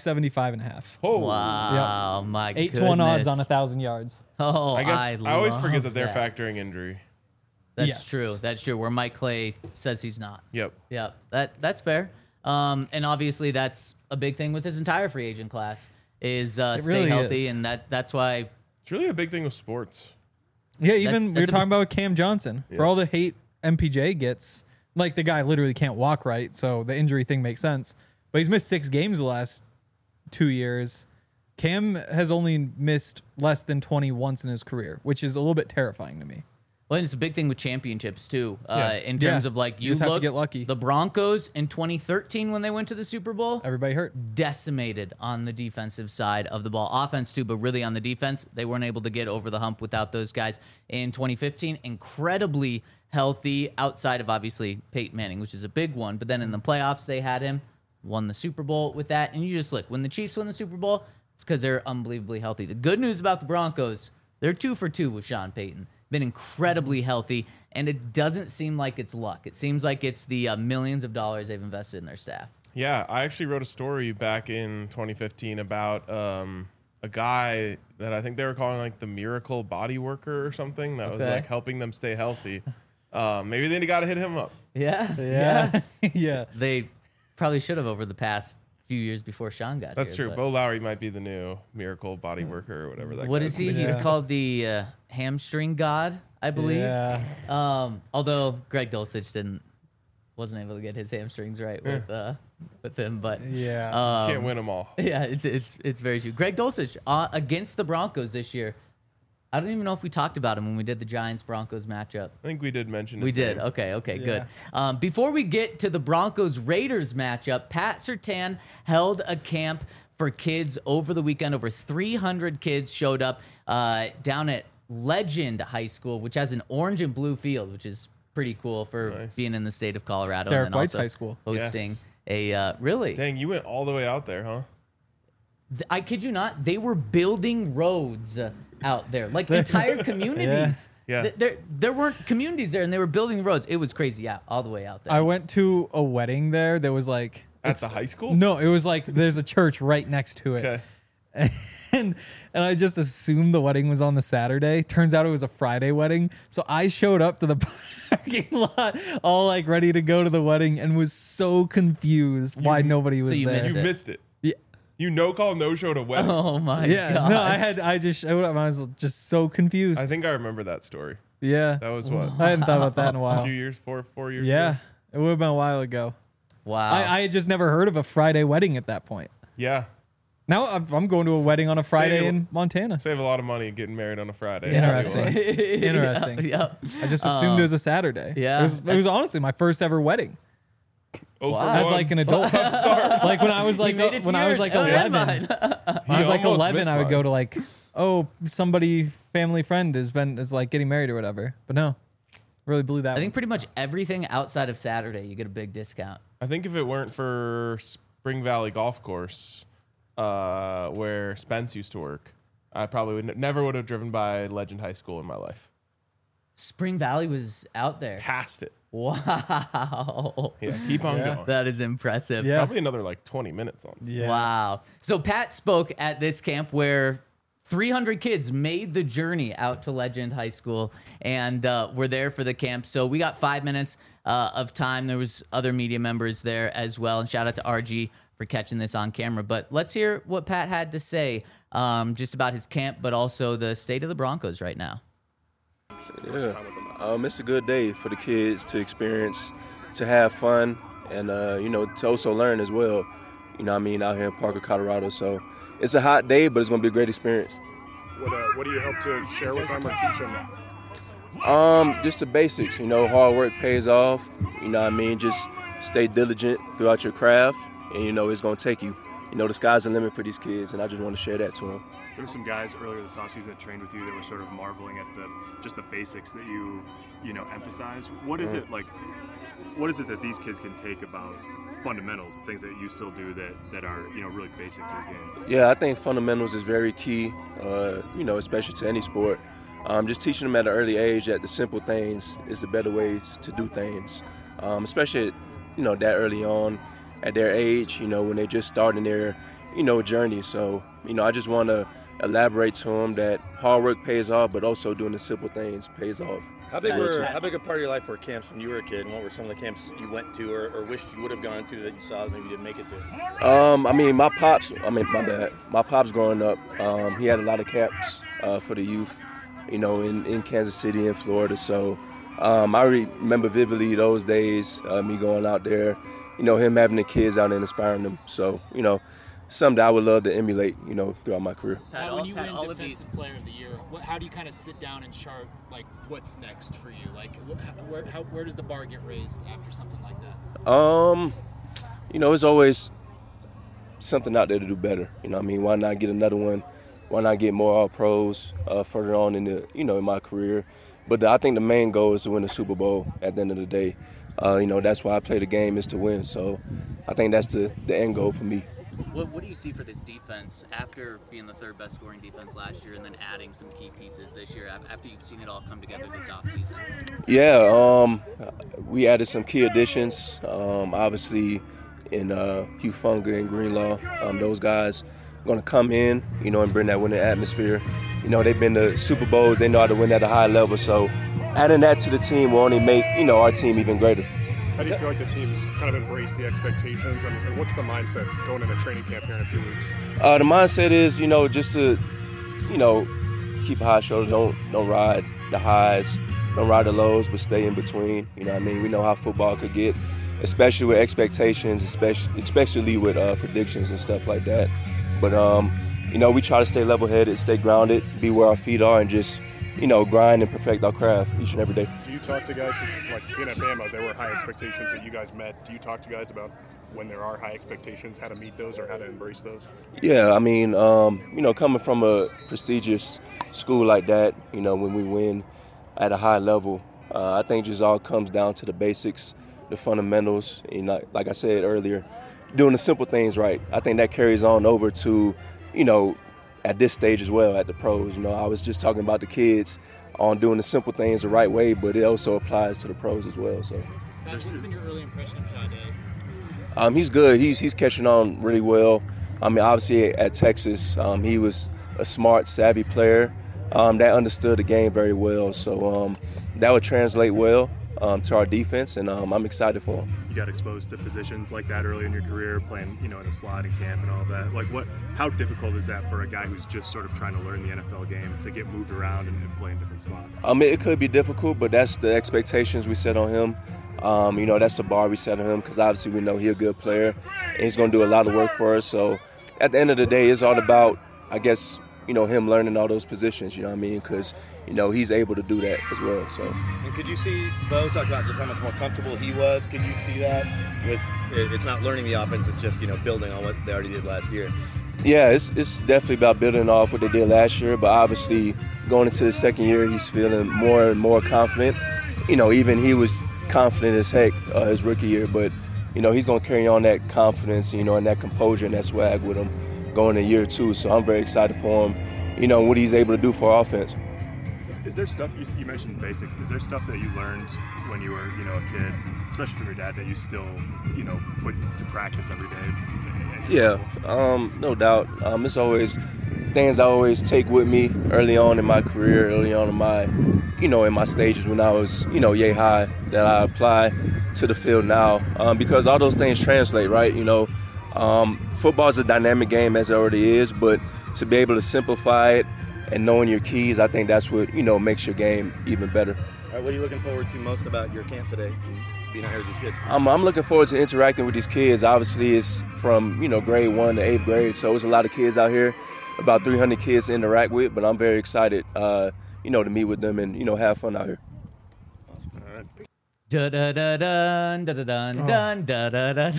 575.5. Oh, Wow, my 8 goodness. to 1 odds on 1,000 yards. Oh, I guess I always love forget that they're that. factoring injury. That's Yes. true. That's true. Where Mike Clay says he's not. Yep. Yeah, that's fair. And obviously that's a big thing with this entire free agent class is stay really healthy, is. and that's why. It's really a big thing with sports. Yeah, even we were that's a- talking about Cam Johnson. For Yeah. all the hate MPJ gets, like the guy literally can't walk right, so the injury thing makes sense. But he's missed 6 games the last 2 years. Cam has only missed less than 20 once in his career, which is a little bit terrifying to me. Well, and it's a big thing with championships too. Yeah. In terms Yeah. of like You you just have to look, get lucky. the Broncos in 2013 when they went to the Super Bowl. Everybody hurt. Decimated on the defensive side of the ball. Offense too, but really on the defense, they weren't able to get over the hump without those guys. In 2015, incredibly healthy outside of obviously Peyton Manning, which is a big one. But then in the playoffs, they had him, won the Super Bowl with that. And you just look, when the Chiefs win the Super Bowl, it's because they're unbelievably healthy. The good news about the Broncos, they're 2 for 2 with Sean Payton. Been incredibly healthy, and it doesn't seem like it's luck. It seems like it's the millions of dollars they've invested in their staff. Yeah, I actually wrote a story back in 2015 about a guy that I think they were calling like the miracle body worker or something that was Okay. like helping them stay healthy. Maybe they got to hit him up. Yeah. Yeah. Yeah. They probably should have over the past few years before Sean got That's here. true. but- Bo Lowry might be the new miracle body worker or whatever that. What guy's is he? name He's Yeah. called the hamstring god, I believe. Yeah. Although Greg Dulcich wasn't able to get his hamstrings right with him, but Yeah. Can't win them all. yeah, it's very true. Greg Dulcich against the Broncos this year. I don't even know if we talked about him when we did the Giants-Broncos matchup. I think we did mention. We his did. name. Okay, good. Before we get to the Broncos-Raiders matchup, Pat Surtain held a camp for kids over the weekend. Over 300 kids showed up down at Legend High School, which has an orange and blue field, which is pretty cool for Nice. being in the state of Colorado. Derek and then White's also high school. hosting Yes. a really. Dang, you went all the way out there, huh? I kid you not, they were building roads out there, like entire communities. Yeah. There weren't communities there, and they were building roads. It was crazy, yeah, all the way out there. I went to a wedding there that was like At it's- the high school? No, it was like there's a church right next to it. Okay. And I just assumed the wedding was on the Saturday. Turns out it was a Friday wedding. So I showed up to the parking lot all like ready to go to the wedding and was so confused why nobody was you there. missed You it. missed it. Yeah. You no call, no show to wedding. Oh my Yeah, gosh. no, I just showed up and I was just so confused. I think I remember that story. Yeah. That was what? I hadn't thought about that in a A while. few years, four years Yeah. ago? It would have been a while ago. Wow. I had just never heard of a Friday wedding at that point. Yeah. Now I'm going to a wedding on a Friday Save- in Montana. Save a lot of money getting married on a Friday. Interesting. I'll tell you what. Interesting. Yeah. I just assumed it was a Saturday. yeah. It was honestly my first ever wedding. Oh, Wow. for As one. like an adult. Like when I was like You made it to when I was yours. like Oh, never 11. mind. When I was like almost 11, missed I would go mine. to like, oh, somebody family friend is like getting married or whatever. But no, really blew that. I think pretty much everything outside of Saturday, you get a big discount. I think if it weren't for Spring Valley Golf Course, where Spence used to work, I probably never would have driven by Legend High School in my life. Spring Valley was out there. Past it. Wow. Yeah, keep on Yeah. going. That is impressive. Yeah. Probably another like 20 minutes on. Yeah. Wow. So Pat spoke at this camp where 300 kids made the journey out to Legend High School and were there for the camp. So we got 5 minutes of time. There was other media members there as well. And shout out to RG for catching this on camera. But let's hear what Pat had to say just about his camp, but also the state of the Broncos right now. Yeah, it's a good day for the kids to experience, to have fun, and to also learn as well. you know what I mean, out here in Parker, Colorado. So it's a hot day, but it's going to be a great experience. What do you hope to share with them or teach them? Just the basics, you know, hard work pays off, you know what I mean, just stay diligent throughout your craft, and, you know, it's going to take you. You know, the sky's the limit for these kids, and I just want to share that to them. There were some guys earlier this offseason that trained with you that were sort of marveling at the basics that you know, emphasize. What is it like? What is it that these kids can take about fundamentals, things that you still do that are, you know, really basic to the game? Yeah, I think fundamentals is very key, you know, especially to any sport. Just teaching them at an early age that the simple things is the better ways to do things, especially, you know, that early on at their age, you know, when they're just starting their, you know, journey. So, you know, I just want to elaborate to them that hard work pays off, but also doing the simple things pays off. How big a part of your life were camps when you were a kid, and what were some of the camps you went to or wished you would have gone to that you saw that maybe you didn't make it to? I mean, my pops growing up, he had a lot of camps for the youth, you know, in Kansas City and Florida. So I remember vividly those days, me going out there, you know, him having the kids out and inspiring them. So, you know, something that I would love to emulate, you know, throughout my career. When you win Defensive Player of the Year, how do you kind of sit down and chart, like, what's next for you? Like, where does the bar get raised after something like that? You know, it's always something out there to do better. You know what I mean? Why not get another one? Why not get more All-Pros further on in my career? But I think the main goal is to win the Super Bowl at the end of the day. You know, that's why I play the game, is to win. So I think that's the end goal for me. What do you see for this defense after being the third best scoring defense last year and then adding some key pieces this year after you've seen it all come together this offseason? Yeah, we added some key additions, obviously in Hufanga and Greenlaw. Those guys are going to come in, you know, and bring that winning atmosphere. You know, they've been to Super Bowls. They know how to win at a high level. So adding that to the team will only make, you know, our team even greater. How do you feel like the team's kind of embraced the expectations, and what's the mindset going into training camp here in a few weeks? The mindset is, you know, just to, you know, keep high shoulders. Don't ride the highs, don't ride the lows, but stay in between. You know what I mean? We know how football could get, especially with expectations, especially with predictions and stuff like that. But, you know, we try to stay level-headed, stay grounded, be where our feet are, and just, you know, grind and perfect our craft each and every day. Do you talk to guys, like being at Bama, there were high expectations that you guys met. Do you talk to guys about when there are high expectations, how to meet those or how to embrace those? Yeah, I mean, you know, coming from a prestigious school like that, you know, when we win at a high level, I think just all comes down to the basics, the fundamentals. You know, like I said earlier, doing the simple things right. I think that carries on over to, you know, at this stage as well, at the pros. You know, I was just talking about the kids on doing the simple things the right way, but it also applies to the pros as well. So, What's been your early impression of Jade? He's good. He's catching on really well. I mean, obviously at Texas, he was a smart, savvy player that understood the game very well. So that would translate well to our defense, and I'm excited for him. You got exposed to positions like that early in your career, playing, you know, in a slot in camp and all that. Like, how difficult is that for a guy who's just sort of trying to learn the NFL game to get moved around and play in different spots? It could be difficult, but that's the expectations we set on him. You know, that's the bar we set on him, because obviously we know he's a good player and he's going to do a lot of work for us. So at the end of the day, it's all about, I guess, you know, him learning all those positions, you know what I mean? Because, you know, he's able to do that as well. So. And could you see, Bo talked about just how much more comfortable he was. Can you see that with, it's not learning the offense, it's just, you know, building on what they already did last year? Yeah, it's definitely about building off what they did last year, but obviously going into the second year, he's feeling more and more confident. You know, even he was confident as heck his rookie year, but, you know, he's going to carry on that confidence, you know, and that composure and that swag with him going in year two. So I'm very excited for him, you know, what he's able to do for our offense. Is there stuff, you mentioned basics, is there stuff that you learned when you were, you know, a kid, especially from your dad, that you still, you know, put to practice every day? Yeah, no doubt. It's always things I always take with me early on in my career, early on in my, you know, in my stages when I was, you know, yay high, that I apply to the field now, because all those things translate, right? You know, football is a dynamic game as it already is, but to be able to simplify it and knowing your keys, I think that's what, you know, makes your game even better. All right, what are you looking forward to most about your camp today and being out here with these kids? I'm looking forward to interacting with these kids. Obviously, it's from grade 1 to 8th grade, so there's a lot of kids out here, about 300 kids to interact with. But I'm very excited, to meet with them and have fun out here. Da da da dun da da dun dun da da da.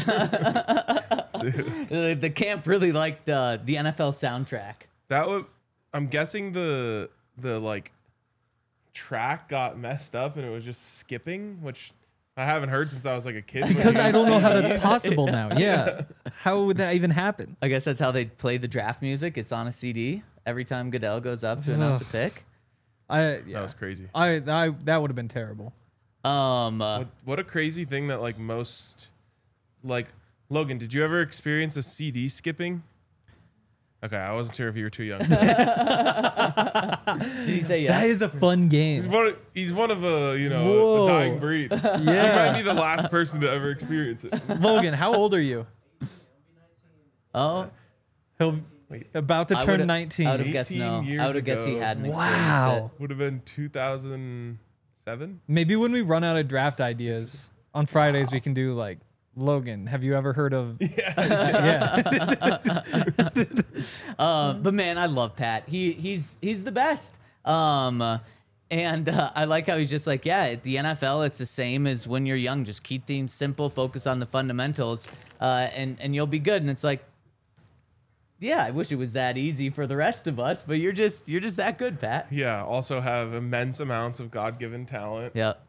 The camp really liked the NFL soundtrack. I'm guessing the like track got messed up and it was just skipping, which I haven't heard since I was like a kid. Because I don't know how that's possible now. Yeah. How would that even happen? I guess that's how they play the draft music. It's on a CD every time Goodell goes up to announce a pick. That was crazy. That would have been terrible. What a crazy thing that like most, like, Logan, did you ever experience a CD skipping? Okay, I wasn't sure if you were too young. Did he say yes? That is a fun game. He's one of a Whoa. a dying breed. Yeah. He might be the last person to ever experience it. Logan, how old are you? Oh, He'll about to turn 19. I would have guessed no. 18 years I would have guessed he ago. hadn't experienced Wow. Would have been 2007. Maybe when we run out of draft ideas on Fridays, we can do like, Logan, have you ever heard of? Yeah. But man, I love Pat. He's the best. I like how he's just like, yeah, at the NFL, it's the same as when you're young. Just keep things simple, focus on the fundamentals, and you'll be good. And it's like, yeah, I wish it was that easy for the rest of us, but you're just that good, Pat. Yeah. Also have immense amounts of God-given talent. Yep.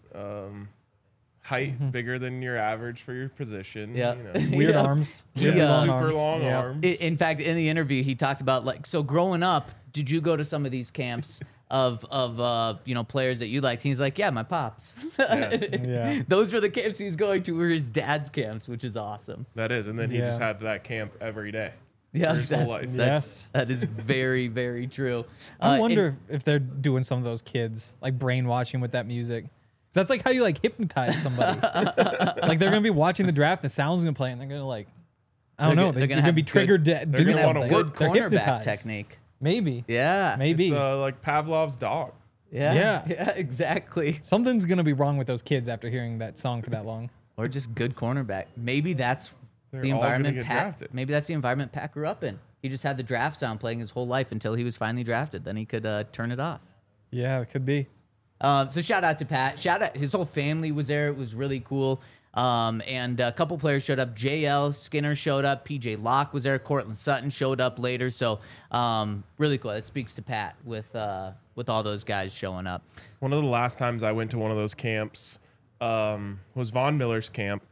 Height bigger than your average for your position. Yeah. Weird Yeah. arms. He, Really long Super arms. long Yeah. arms. In fact, in the interview, he talked about like, so growing up, did you go to some of these camps of players that you liked? He's like, yeah, my pops. Yeah. Those were the camps he was going to, were his dad's camps, which is awesome. That is, and then he Yeah. just had that camp every day. Yeah, For his whole life. Yes. that is very, very true. I And- wonder if they're doing some of those kids, like brainwashing with that music. 'Cause that's like how you like hypnotize somebody. Like they're gonna be watching the draft, the sound's gonna play, and they're gonna like, I don't They're know, go- they're gonna have be triggered to do gonna wanna something. work good They're cornerback hypnotized. technique. Maybe. Yeah. Maybe. It's like Pavlov's dog. Yeah. Yeah. Exactly. Something's gonna be wrong with those kids after hearing that song for that long. Or just good cornerback. Maybe that's They're the all gonna environment get Pat. drafted. Maybe that's the environment Pat grew up in. He just had the draft sound playing his whole life until he was finally drafted. Then he could turn it off. Yeah, it could be. So shout out to Pat. Shout out, his whole family was there. It was really cool. And a couple players showed up. JL Skinner showed up. PJ Locke was there. Cortland Sutton showed up later. So really cool. It speaks to Pat with all those guys showing up. One of the last times I went to one of those camps was Von Miller's camp,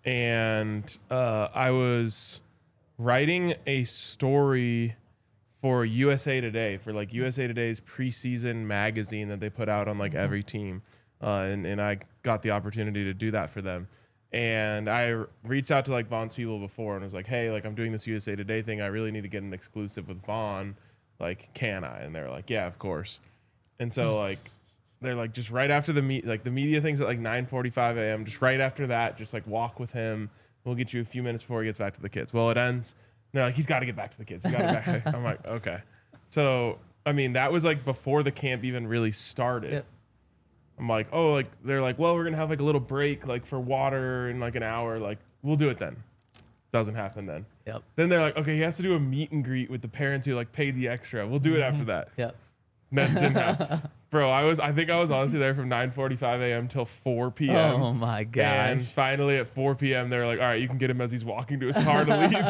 and I was writing a story for USA Today, for like USA Today's preseason magazine that they put out on like every team, and I got the opportunity to do that for them. And I reached out to like Von's people before and was like, hey, like I'm doing this USA Today thing. I really need to get an exclusive with Von. Like, can I? And they're like, yeah, of course. And so like they're like, just right after the media thing's at like 9:45 a.m. Just right after that, just like walk with him. We'll get you a few minutes before he gets back to the kids. Well, it ends. They're like, he's got to get back to the kids. He's got to back. I'm like, okay. So I mean, that was like before the camp even really started. Yep. I'm like, oh, like they're like, well, we're gonna have like a little break, like for water in like an hour. Like, we'll do it then. Doesn't happen then. Yep. Then they're like, okay, he has to do a meet and greet with the parents who like paid the extra. We'll do it after that. Yep. That didn't happen. Bro, I think I was honestly there from 9:45 a.m. till 4 p.m. Oh my And gosh. finally at 4 p.m. they were like, all right, you can get him as he's walking to his car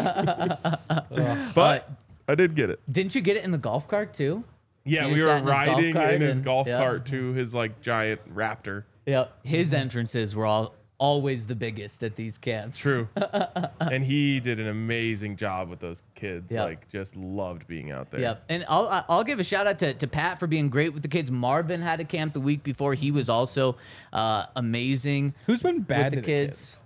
to leave. But I did get it. Didn't you get it in the golf cart too? Yeah, You we sat were in his golf riding cart in his and- golf yeah. cart to his like giant Raptor. Yep. His entrances were always the biggest at these camps. True. And he did an amazing job with those kids. Yep. Like, just loved being out there. Yep. And I'll give a shout out to Pat for being great with the kids. Marvin had a camp the week before. He was also amazing. Who's been bad with to the the kids?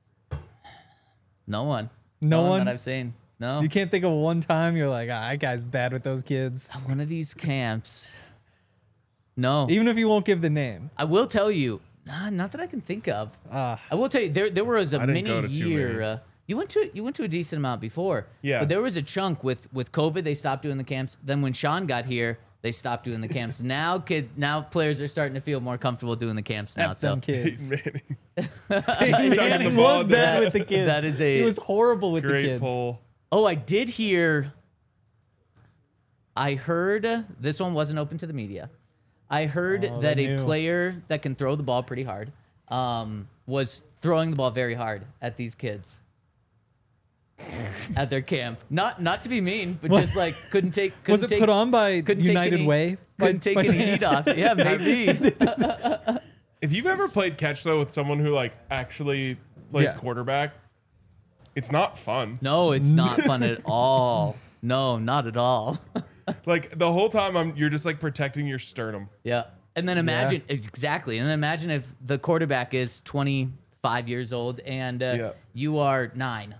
No one. No one? that I've seen. No. You can't think of one time you're like, that guy's bad with those kids. One of these camps. No. Even if you won't give the name. I will tell you. Not that I can think of. I will tell you. There was a I didn't mini go to too year. many. You went to a decent amount before. Yeah. But there was a chunk with COVID. They stopped doing the camps. Then when Sean got here, they stopped doing the camps. Now players are starting to feel more comfortable doing the camps now. F So them kids. Peyton Manning. Peyton Chucking Manning the ball was down. bad with the kids. That is he was horrible with the Great kids. pull. Oh, I did hear. I heard this one wasn't open to the media. I heard Oh, that they a knew. player that can throw the ball pretty hard was throwing the ball very hard at these kids at their camp. Not to be mean, but just like couldn't take. Was it put on by couldn't take United any- Way? Couldn't take any heat off. Yeah, maybe. If you've ever played catch though with someone who like actually plays Yeah. quarterback, it's not fun. No, it's not fun at all. No, not at all. Like the whole time you're just like protecting your sternum. Yeah. And then imagine exactly. And then imagine if the quarterback is 25 years old and you are 9.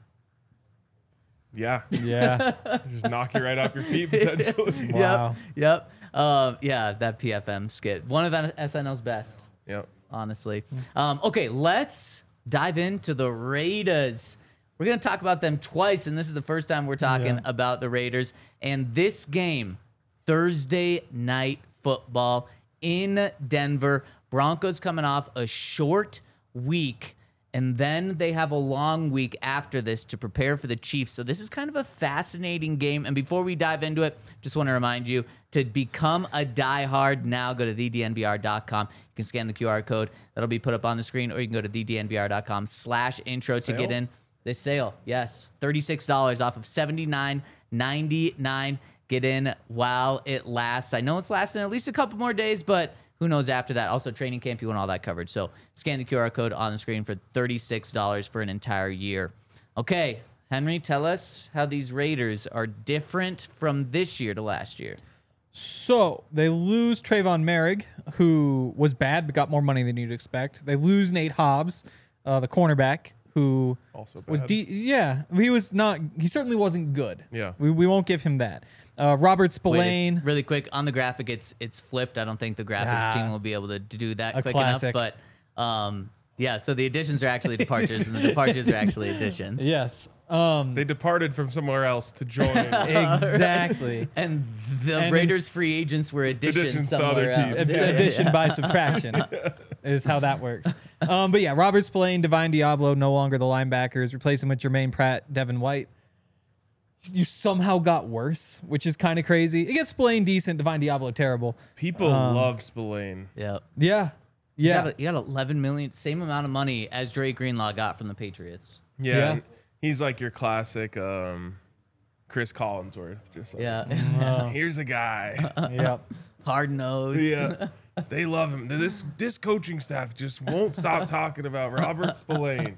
Yeah. Yeah. Just knock you right off your feet potentially. Wow. Yep. Yeah, that PFM skit. One of SNL's best, Yep. honestly. Okay, let's dive into the Raiders. We're going to talk about them twice, and this is the first time we're talking about the Raiders. And this game, Thursday night football in Denver. Broncos coming off a short week, and then they have a long week after this to prepare for the Chiefs. So this is kind of a fascinating game. And before we dive into it, just want to remind you to become a diehard now, go to thednvr.com. You can scan the QR code that'll be put up on the screen, or you can go to thednvr.com/intro to get in. This sale, yes, $36 off of $79.99. Get in while it lasts. I know it's lasting at least a couple more days, but who knows after that. Also, training camp, you want all that covered. So scan the QR code on the screen for $36 for an entire year. Okay, Henry, tell us how these Raiders are different from this year to last year. So they lose Trayvon Merrick, who was bad but got more money than you'd expect. They lose Nate Hobbs, the cornerback, who Also was bad. he was not. He certainly wasn't good. Yeah. we won't give him that. Robert Wait, Spillane. it's really quick on the graphic. It's flipped. I don't think the graphics team will be able to do that A quick classic. enough. But yeah, so the additions are actually departures, and the departures are actually additions. Yes. They departed from somewhere else to join. Exactly. And the And Raiders it's- free agents were additions Additions to other somewhere else. teams. Addition by subtraction is how that works. But yeah, Robert Spillane, Divine Diablo, no longer the linebackers. Replace him with Jermaine Pratt, Devin White. You somehow got worse, which is kind of crazy. It gets Spillane decent, Divine Diablo terrible. People love Spillane. Yeah. Yeah. Yeah. You got 11 million, same amount of money as Drake Greenlaw got from the Patriots. Yeah. Yeah. and he's like your classic Chris Collinsworth. Just like, Yeah. here's a guy. Yeah. Hard nosed. Yeah. They love him. This coaching staff just won't stop talking about Robert Spillane.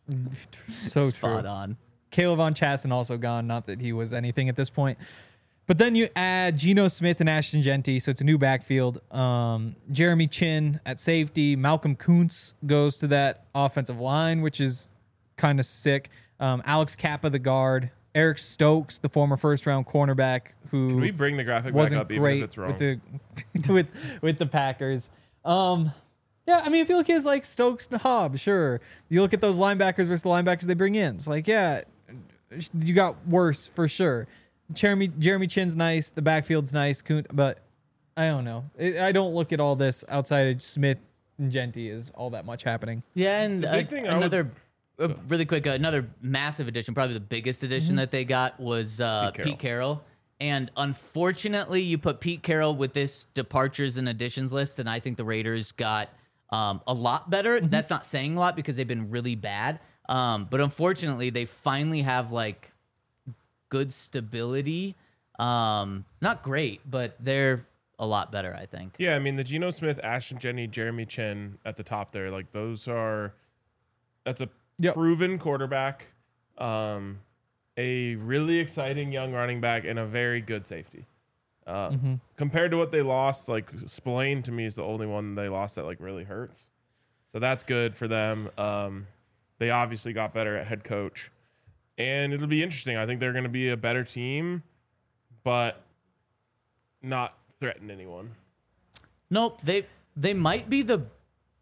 So true. Spot on. Caleb Von Chasten also gone. Not that he was anything at this point. But then you add Geno Smith and Ashton Genty, so it's a new backfield. Jeremy Chin at safety. Malcolm Kuntz goes to that offensive line, which is kind of sick. Alex Kappa, the guard. Eric Stokes, the former first-round cornerback, who Can we bring the graphic back wasn't up even great if it's wrong? with the with the Packers. Yeah, I mean, if you look at like Stokes and Hobbs, sure. You look at those linebackers versus the linebackers they bring in. It's like, yeah, you got worse for sure. Jeremy Chin's nice. The backfield's nice. But I don't know. I don't look at all this outside of Smith and Genty as all that much happening. Yeah, and big thing I would- another really quick, another massive addition, probably the biggest addition that they got was Pete Carroll. And unfortunately, you put Pete Carroll with this departures and additions list, and I think the Raiders got a lot better. That's not saying a lot because they've been really bad. But unfortunately, they finally have like good stability. Not great, but they're a lot better, I think. Yeah, I mean the Geno Smith, Ashton Jenny, Jeremy Chin at the top there, like that's a proven quarterback, a really exciting young running back, and a very good safety. Compared to what they lost, like Spillane to me is the only one they lost that like really hurts. So that's good for them. They obviously got better at head coach, and it'll be interesting. I think they're going to be a better team, but not threaten anyone. Nope, they might be the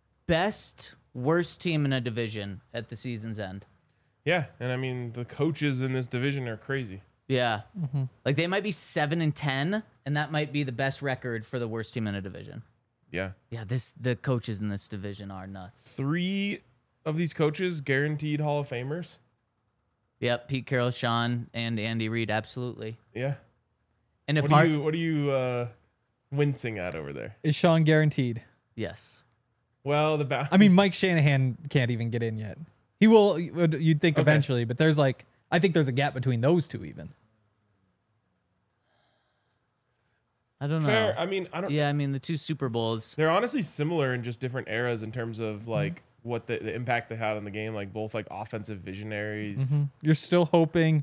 worst team in a division at the season's end. Yeah, and I mean the coaches in this division are crazy. Yeah. Like they might be 7-10, and that might be the best record for the worst team in a division. Yeah. Yeah, the coaches in this division are nuts. 3 of these coaches guaranteed Hall of Famers. Yep, Pete Carroll, Sean, and Andy Reid, absolutely. Yeah. And if What are you wincing at over there? Is Sean guaranteed? yes. Well, I mean, Mike Shanahan can't even get in yet. He will, you'd think Okay. eventually, but I think there's a gap between those two even. I don't know. fair. I mean, I don't. Yeah, I mean the 2 Super Bowls. They're honestly similar in just different eras in terms of like what the impact they had on the game. Like both like offensive visionaries. You're still hoping.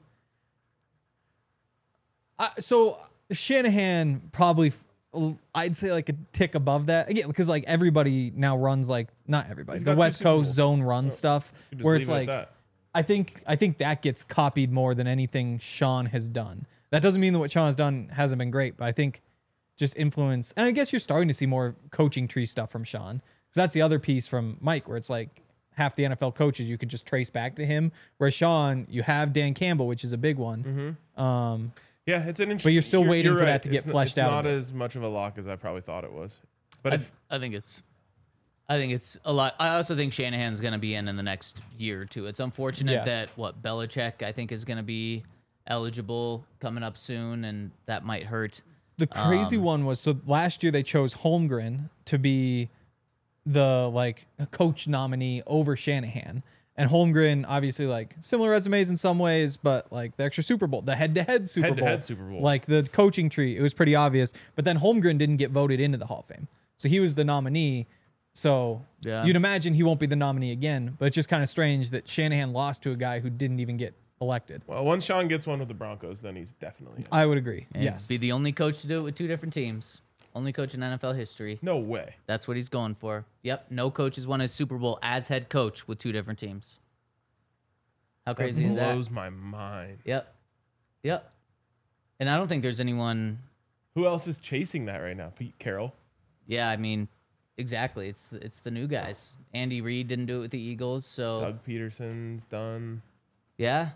So Shanahan probably, I'd say like a tick above that again because like everybody now runs like not everybody He's the got 2 West Super Coast Bowls. zone run stuff You just where leave it's it at like that. I think that gets copied more than anything Sean has done. That doesn't mean that what Sean has done hasn't been great, but I think just influence, and I guess you're starting to see more coaching tree stuff from Sean because that's the other piece from Mike where it's like half the NFL coaches you could just trace back to him. Whereas Sean, you have Dan Campbell, which is a big one. Yeah, it's an interesting. you're still waiting you're for that right. to get It's fleshed It's out a not bit. as much of a lock as I probably thought it was. But I think it's a lot. I also think Shanahan's going to be in the next year or two. It's unfortunate Yeah. that Belichick I think is going to be eligible coming up soon, and that might hurt. The crazy one was so last year they chose Holmgren to be the like coach nominee over Shanahan. And Holmgren, obviously, like similar resumes in some ways, but like the extra Super Bowl, the head-to-head Super Bowl, Head-to-head Super Bowl. like the coaching tree, it was pretty obvious. But then Holmgren didn't get voted into the Hall of Fame, so he was the nominee. So Yeah. you'd imagine he won't be the nominee again. But it's just kind of strange that Shanahan lost to a guy who didn't even get elected. well, once Sean gets one with the Broncos, then he's definitely in. I would agree. And Yes. be the only coach to do it with 2 different teams. Only coach in NFL history. No way. That's what he's going for. Yep. No coach has won a Super Bowl as head coach with 2 different teams. How crazy is that? Blows my mind. Yep. Yep. And I don't think there's anyone. Who else is chasing that right now? Pete Carroll. Yeah, I mean, exactly. It's the new guys. Andy Reid didn't do it with the Eagles, so Doug Peterson's done. yeah.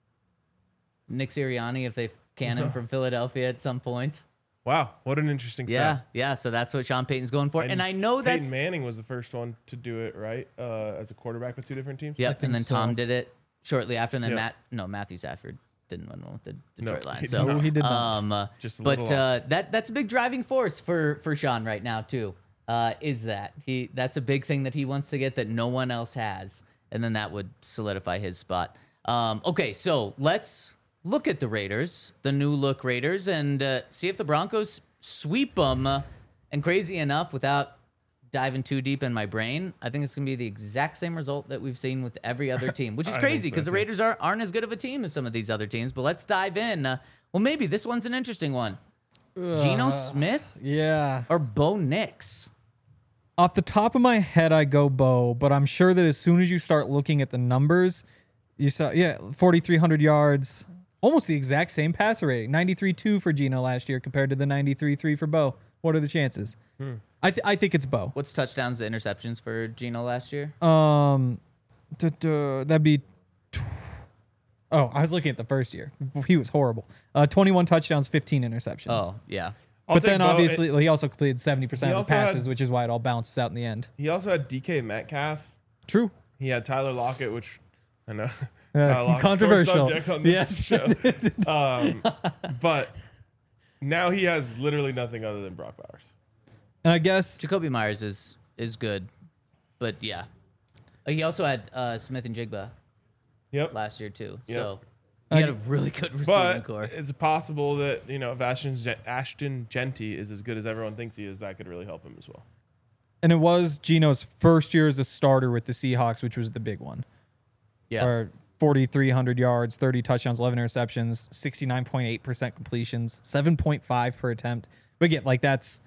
Nick Sirianni, if they can him from Philadelphia at some point. Wow, what an interesting Yeah, stat. yeah. So that's what Sean Payton's going for, and I know Peyton that's Manning was the first one to do it, right? As a quarterback with 2 different teams. yep. think And then so. Tom did it shortly after, and then Yeah. Matthew Stafford didn't win one with the No, Detroit Lions. he So did not. He did not. Just a but little off. that's a big driving force for Sean right now too. Is that that's a big thing that he wants to get that no one else has, and then that would solidify his spot. Okay, so let's look at the Raiders, the new look Raiders, and see if the Broncos sweep them. And crazy enough, without diving too deep in my brain, I think it's going to be the exact same result that we've seen with every other team, which is I crazy think so, because the too. Raiders aren't as good of a team as some of these other teams. But let's dive in. Well, maybe this one's an interesting one. Geno Smith Yeah. or Bo Nix? Off the top of my head, I go Bo, but I'm sure that as soon as you start looking at the numbers, you saw, 4,300 yards, almost the exact same passer rating, 93.2 for Geno last year compared to the 93.3 for Bo. What are the chances? I think it's Bo. What's touchdowns to interceptions for Geno last year? That'd be. Oh, I was looking at the first year. He was horrible. 21 touchdowns, 15 interceptions. Oh, yeah. I'll But take then Bo. obviously he also completed 70% of his also had- passes, which is why it all bounces out in the end. He also had DK Metcalf. True. He had Tyler Lockett, which I know Yeah, Tyler Lockett's controversial. sore subject on this Yes. show. But now he has literally nothing other than Brock Bowers. And I guess Jacoby Myers is good, but yeah. He also had Smith and Jigba Yep. last year too, Yep. so he had a really good receiving But core. it's possible that, if Ashton Genty is as good as everyone thinks he is, that could really help him as well. and it was Geno's first year as a starter with the Seahawks, which was the big one. Yeah, Or 4,300 yards, 30 touchdowns, 11 interceptions, 69.8% completions, 7.5 per attempt. But again, like that's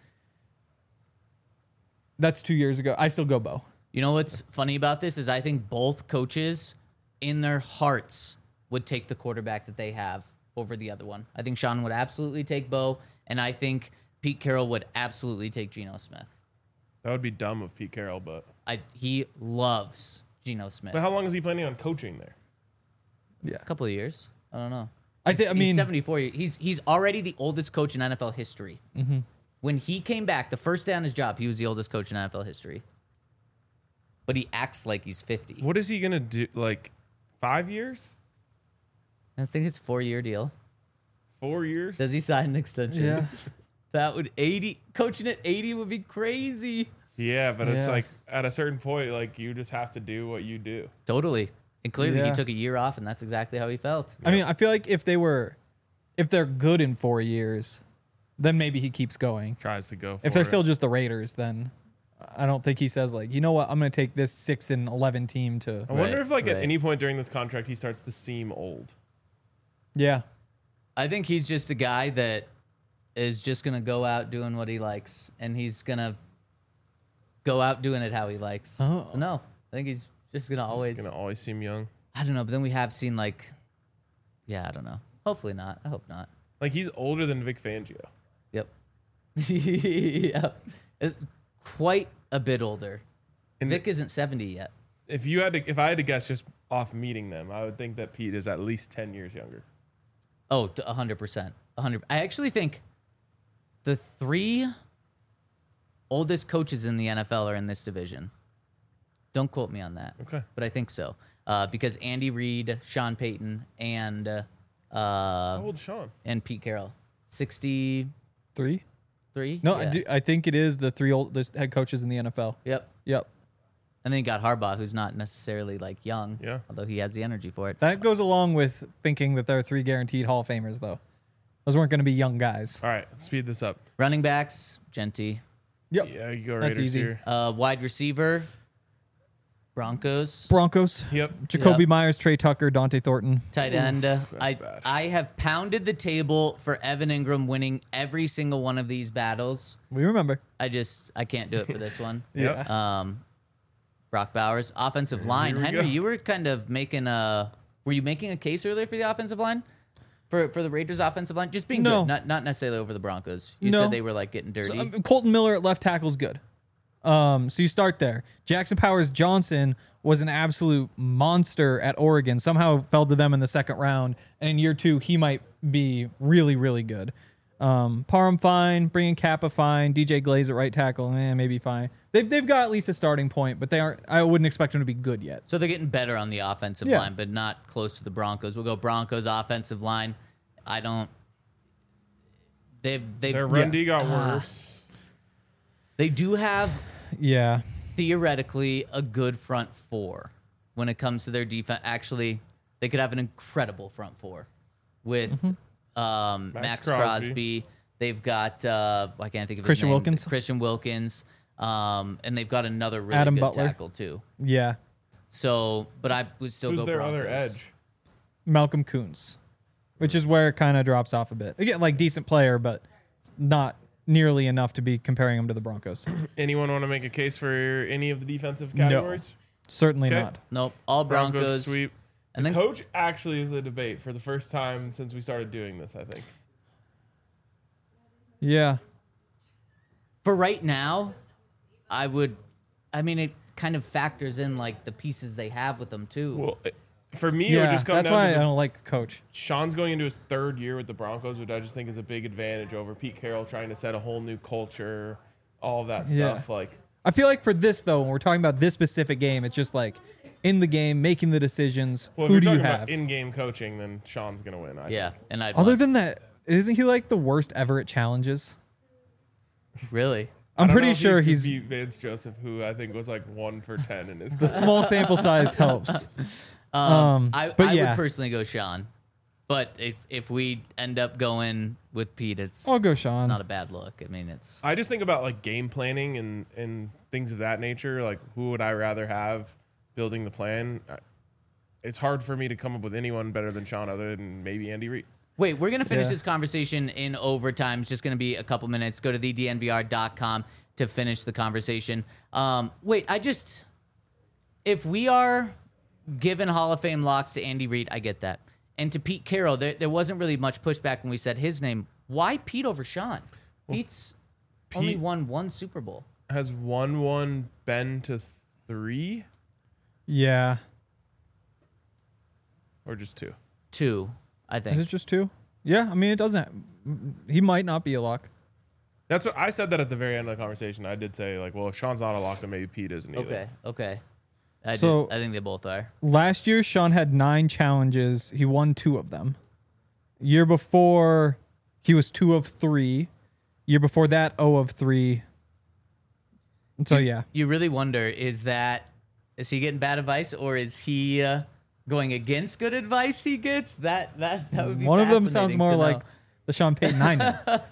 2 years ago. I still go Bo. you know what's funny about this is I think both coaches, in their hearts, would take the quarterback that they have over the other one. I think Sean would absolutely take Bo, and I think Pete Carroll would absolutely take Geno Smith. That would be dumb of Pete Carroll, but He loves Geno Smith. how long is he planning on coaching there? Yeah. A couple of years. I don't know. I He's mean, 74. He's already the oldest coach in NFL history. Mm-hmm. When he came back, the first day on his job, he was the oldest coach in NFL history. But he acts like he's 50. What is he gonna do? Like 5 years? I think it's a 4-year deal. 4 years? Does he sign an extension? Yeah. That would 80 coaching at 80 would be crazy. Yeah, but it's Yeah. like at a certain point, like you just have to do what you do. Totally. And clearly he Yeah. took a year off, and that's exactly how he felt. I mean, I feel like if they're good in 4 years, then maybe he keeps going. Tries to go. If for they're it. still just the Raiders, then I don't think he says like, you know what, I'm going to take this 6-11 team to. I wonder Right, if like at right. any point during this contract he starts to seem old. Yeah. I think he's just a guy that is just going to go out doing what he likes, and he's going to go out doing it how he likes. Oh. No, I think he's just going to always. He's gonna always seem young. I don't know, but then we have seen like, yeah, I don't know. Hopefully not. I hope not. Like he's older than Vic Fangio. Yep. Yeah. Quite a bit older. And Vic isn't 70 yet. if I had to guess just off meeting them, I would think that Pete is at least 10 years younger. Oh, 100%. 100. I actually think the 3 oldest coaches in the NFL are in this division. Don't quote me on that. Okay. But I think so. Because Andy Reid, Sean Payton, and How old Sean? and Pete Carroll. 63? 3? No, Yeah. I think it is the 3 oldest head coaches in the NFL. Yep. Yep. And then you got Harbaugh, who's not necessarily like young. Yeah. Although he has the energy for it. That goes along with thinking that there are 3 guaranteed Hall of Famers, though. Those weren't going to be young guys. All right, let's speed this up. Running backs, Genty. Yep. Yeah, you go That's Raiders easy. here. Wide receiver, Broncos. Broncos. Yep. Jacoby Yep. Myers, Trey Tucker, Dante Thornton. Tight end. that's bad. I have pounded the table for Evan Ingram winning every single one of these battles. We remember. I can't do it for this one. Yeah. Brock Bowers, offensive line. we Henry, go. you were kind of were you making a case earlier for the offensive line? For the Raiders offensive line? Just being No. good, not necessarily over the Broncos. You No. said they were like getting dirty. So, Colton Miller at left tackle is good. So you start there. Jackson Powers Johnson was an absolute monster at Oregon. Somehow fell to them in the second round, and in year 2 he might be really, really good. Parham fine, bringing Kappa fine, DJ Glaze at right tackle, maybe fine. They've got at least a starting point, but they aren't. I wouldn't expect them to be good yet. So they're getting better on the offensive Yeah. line, but not close to the Broncos. We'll go Broncos offensive line. I don't. They've Their run D got worse. They do have Yeah, theoretically a good front 4 when it comes to their defense. Actually, they could have an incredible front 4 with Max Crosby. They've got I can't think of Christian his name. Wilkins. Christian Wilkins. And they've got another really Adam good Butler. tackle too. yeah. So, but I would still Who's go their Broncos. other edge? Malcolm Kuntz, which is where it kind of drops off a bit. Again, like decent player, but not nearly enough to be comparing him to the Broncos. Anyone want to make a case for any of the defensive categories? Certainly Okay. not. Nope, all Broncos. sweep. And then Coach actually is a debate for the first time since we started doing this, I think. Yeah. for right now, I mean, it kind of factors in like the pieces they have with them too. Well, for me, it would Yeah, just come that's down why to I don't like the coach. Sean's going into his 3rd year with the Broncos, which I just think is a big advantage over Pete Carroll trying to set a whole new culture, all of that Yeah. stuff. Like, I feel like for this though, when we're talking about this specific game, it's just like in the game, making the decisions. well, Who if do you're you talking have? about in-game coaching, then Sean's going to win. I Yeah, and I Other than that, isn't he like the worst ever at challenges? really, I'm don't know pretty if he sure could he's beat Vance Joseph, who I think was like 1 for 10 in his the small sample size helps. I but yeah. would personally go Sean. But if we end up going with Pete, it's I'll go Sean. not a bad look. I mean, it's I just think about like game planning and things of that nature. Like, who would I rather have building the plan? It's hard for me to come up with anyone better than Sean, other than maybe Andy Reid. Wait, we're going to finish Yeah. this conversation in overtime. It's just going to be a couple minutes. Go to thednvr.com to finish the conversation. If we are giving Hall of Fame locks to Andy Reid, I get that. And to Pete Carroll, there wasn't really much pushback when we said his name. Why Pete over Sean? Pete's only Pete- won 1 Super Bowl. Has 1-1 been to 3 Yeah. or just 2? 2. I Is think. it just 2? Yeah, I mean, it doesn't. He might not be a lock. That's what I said that at the very end of the conversation. I did say like, well, if Sean's not a lock, then maybe Pete isn't either. Okay. I think they both are. Last year, Sean had 9 challenges. He won 2 of them. Year before, he was 2 of 3. Year before that, 0 of 3. And so, yeah. You really wonder, is he getting bad advice, or is he going against good advice he gets? That would be One of them sounds fascinating more to like know. the Sean Payton I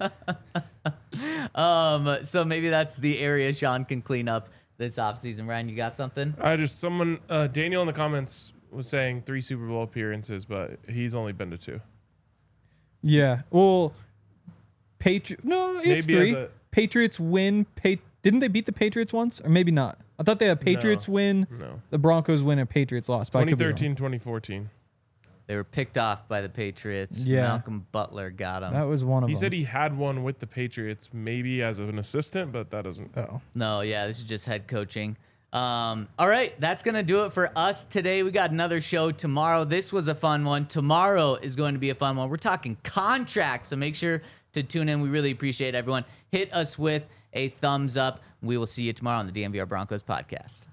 know. So maybe that's the area Sean can clean up this offseason. Ryan, you got something? Daniel in the comments was saying 3 Super Bowl appearances, but he's only been to 2. Yeah. Well, no, it's Maybe 3. Patriots win. Didn't they beat the Patriots once? Or maybe not. I thought they had Patriots win, No. the Broncos win, and Patriots lost. But I could be wrong. 2013, 2014. They were picked off by the Patriots. Yeah. Malcolm Butler got him. That was one of He them. said he had one with the Patriots, maybe as an assistant, but that doesn't. Oh. No, yeah, this is just head coaching. All right, that's going to do it for us today. We got another show tomorrow. This was a fun one. Tomorrow is going to be a fun one. We're talking contracts, so make sure to tune in. We really appreciate everyone. Hit us with a thumbs up. We will see you tomorrow on the DNVR Broncos podcast.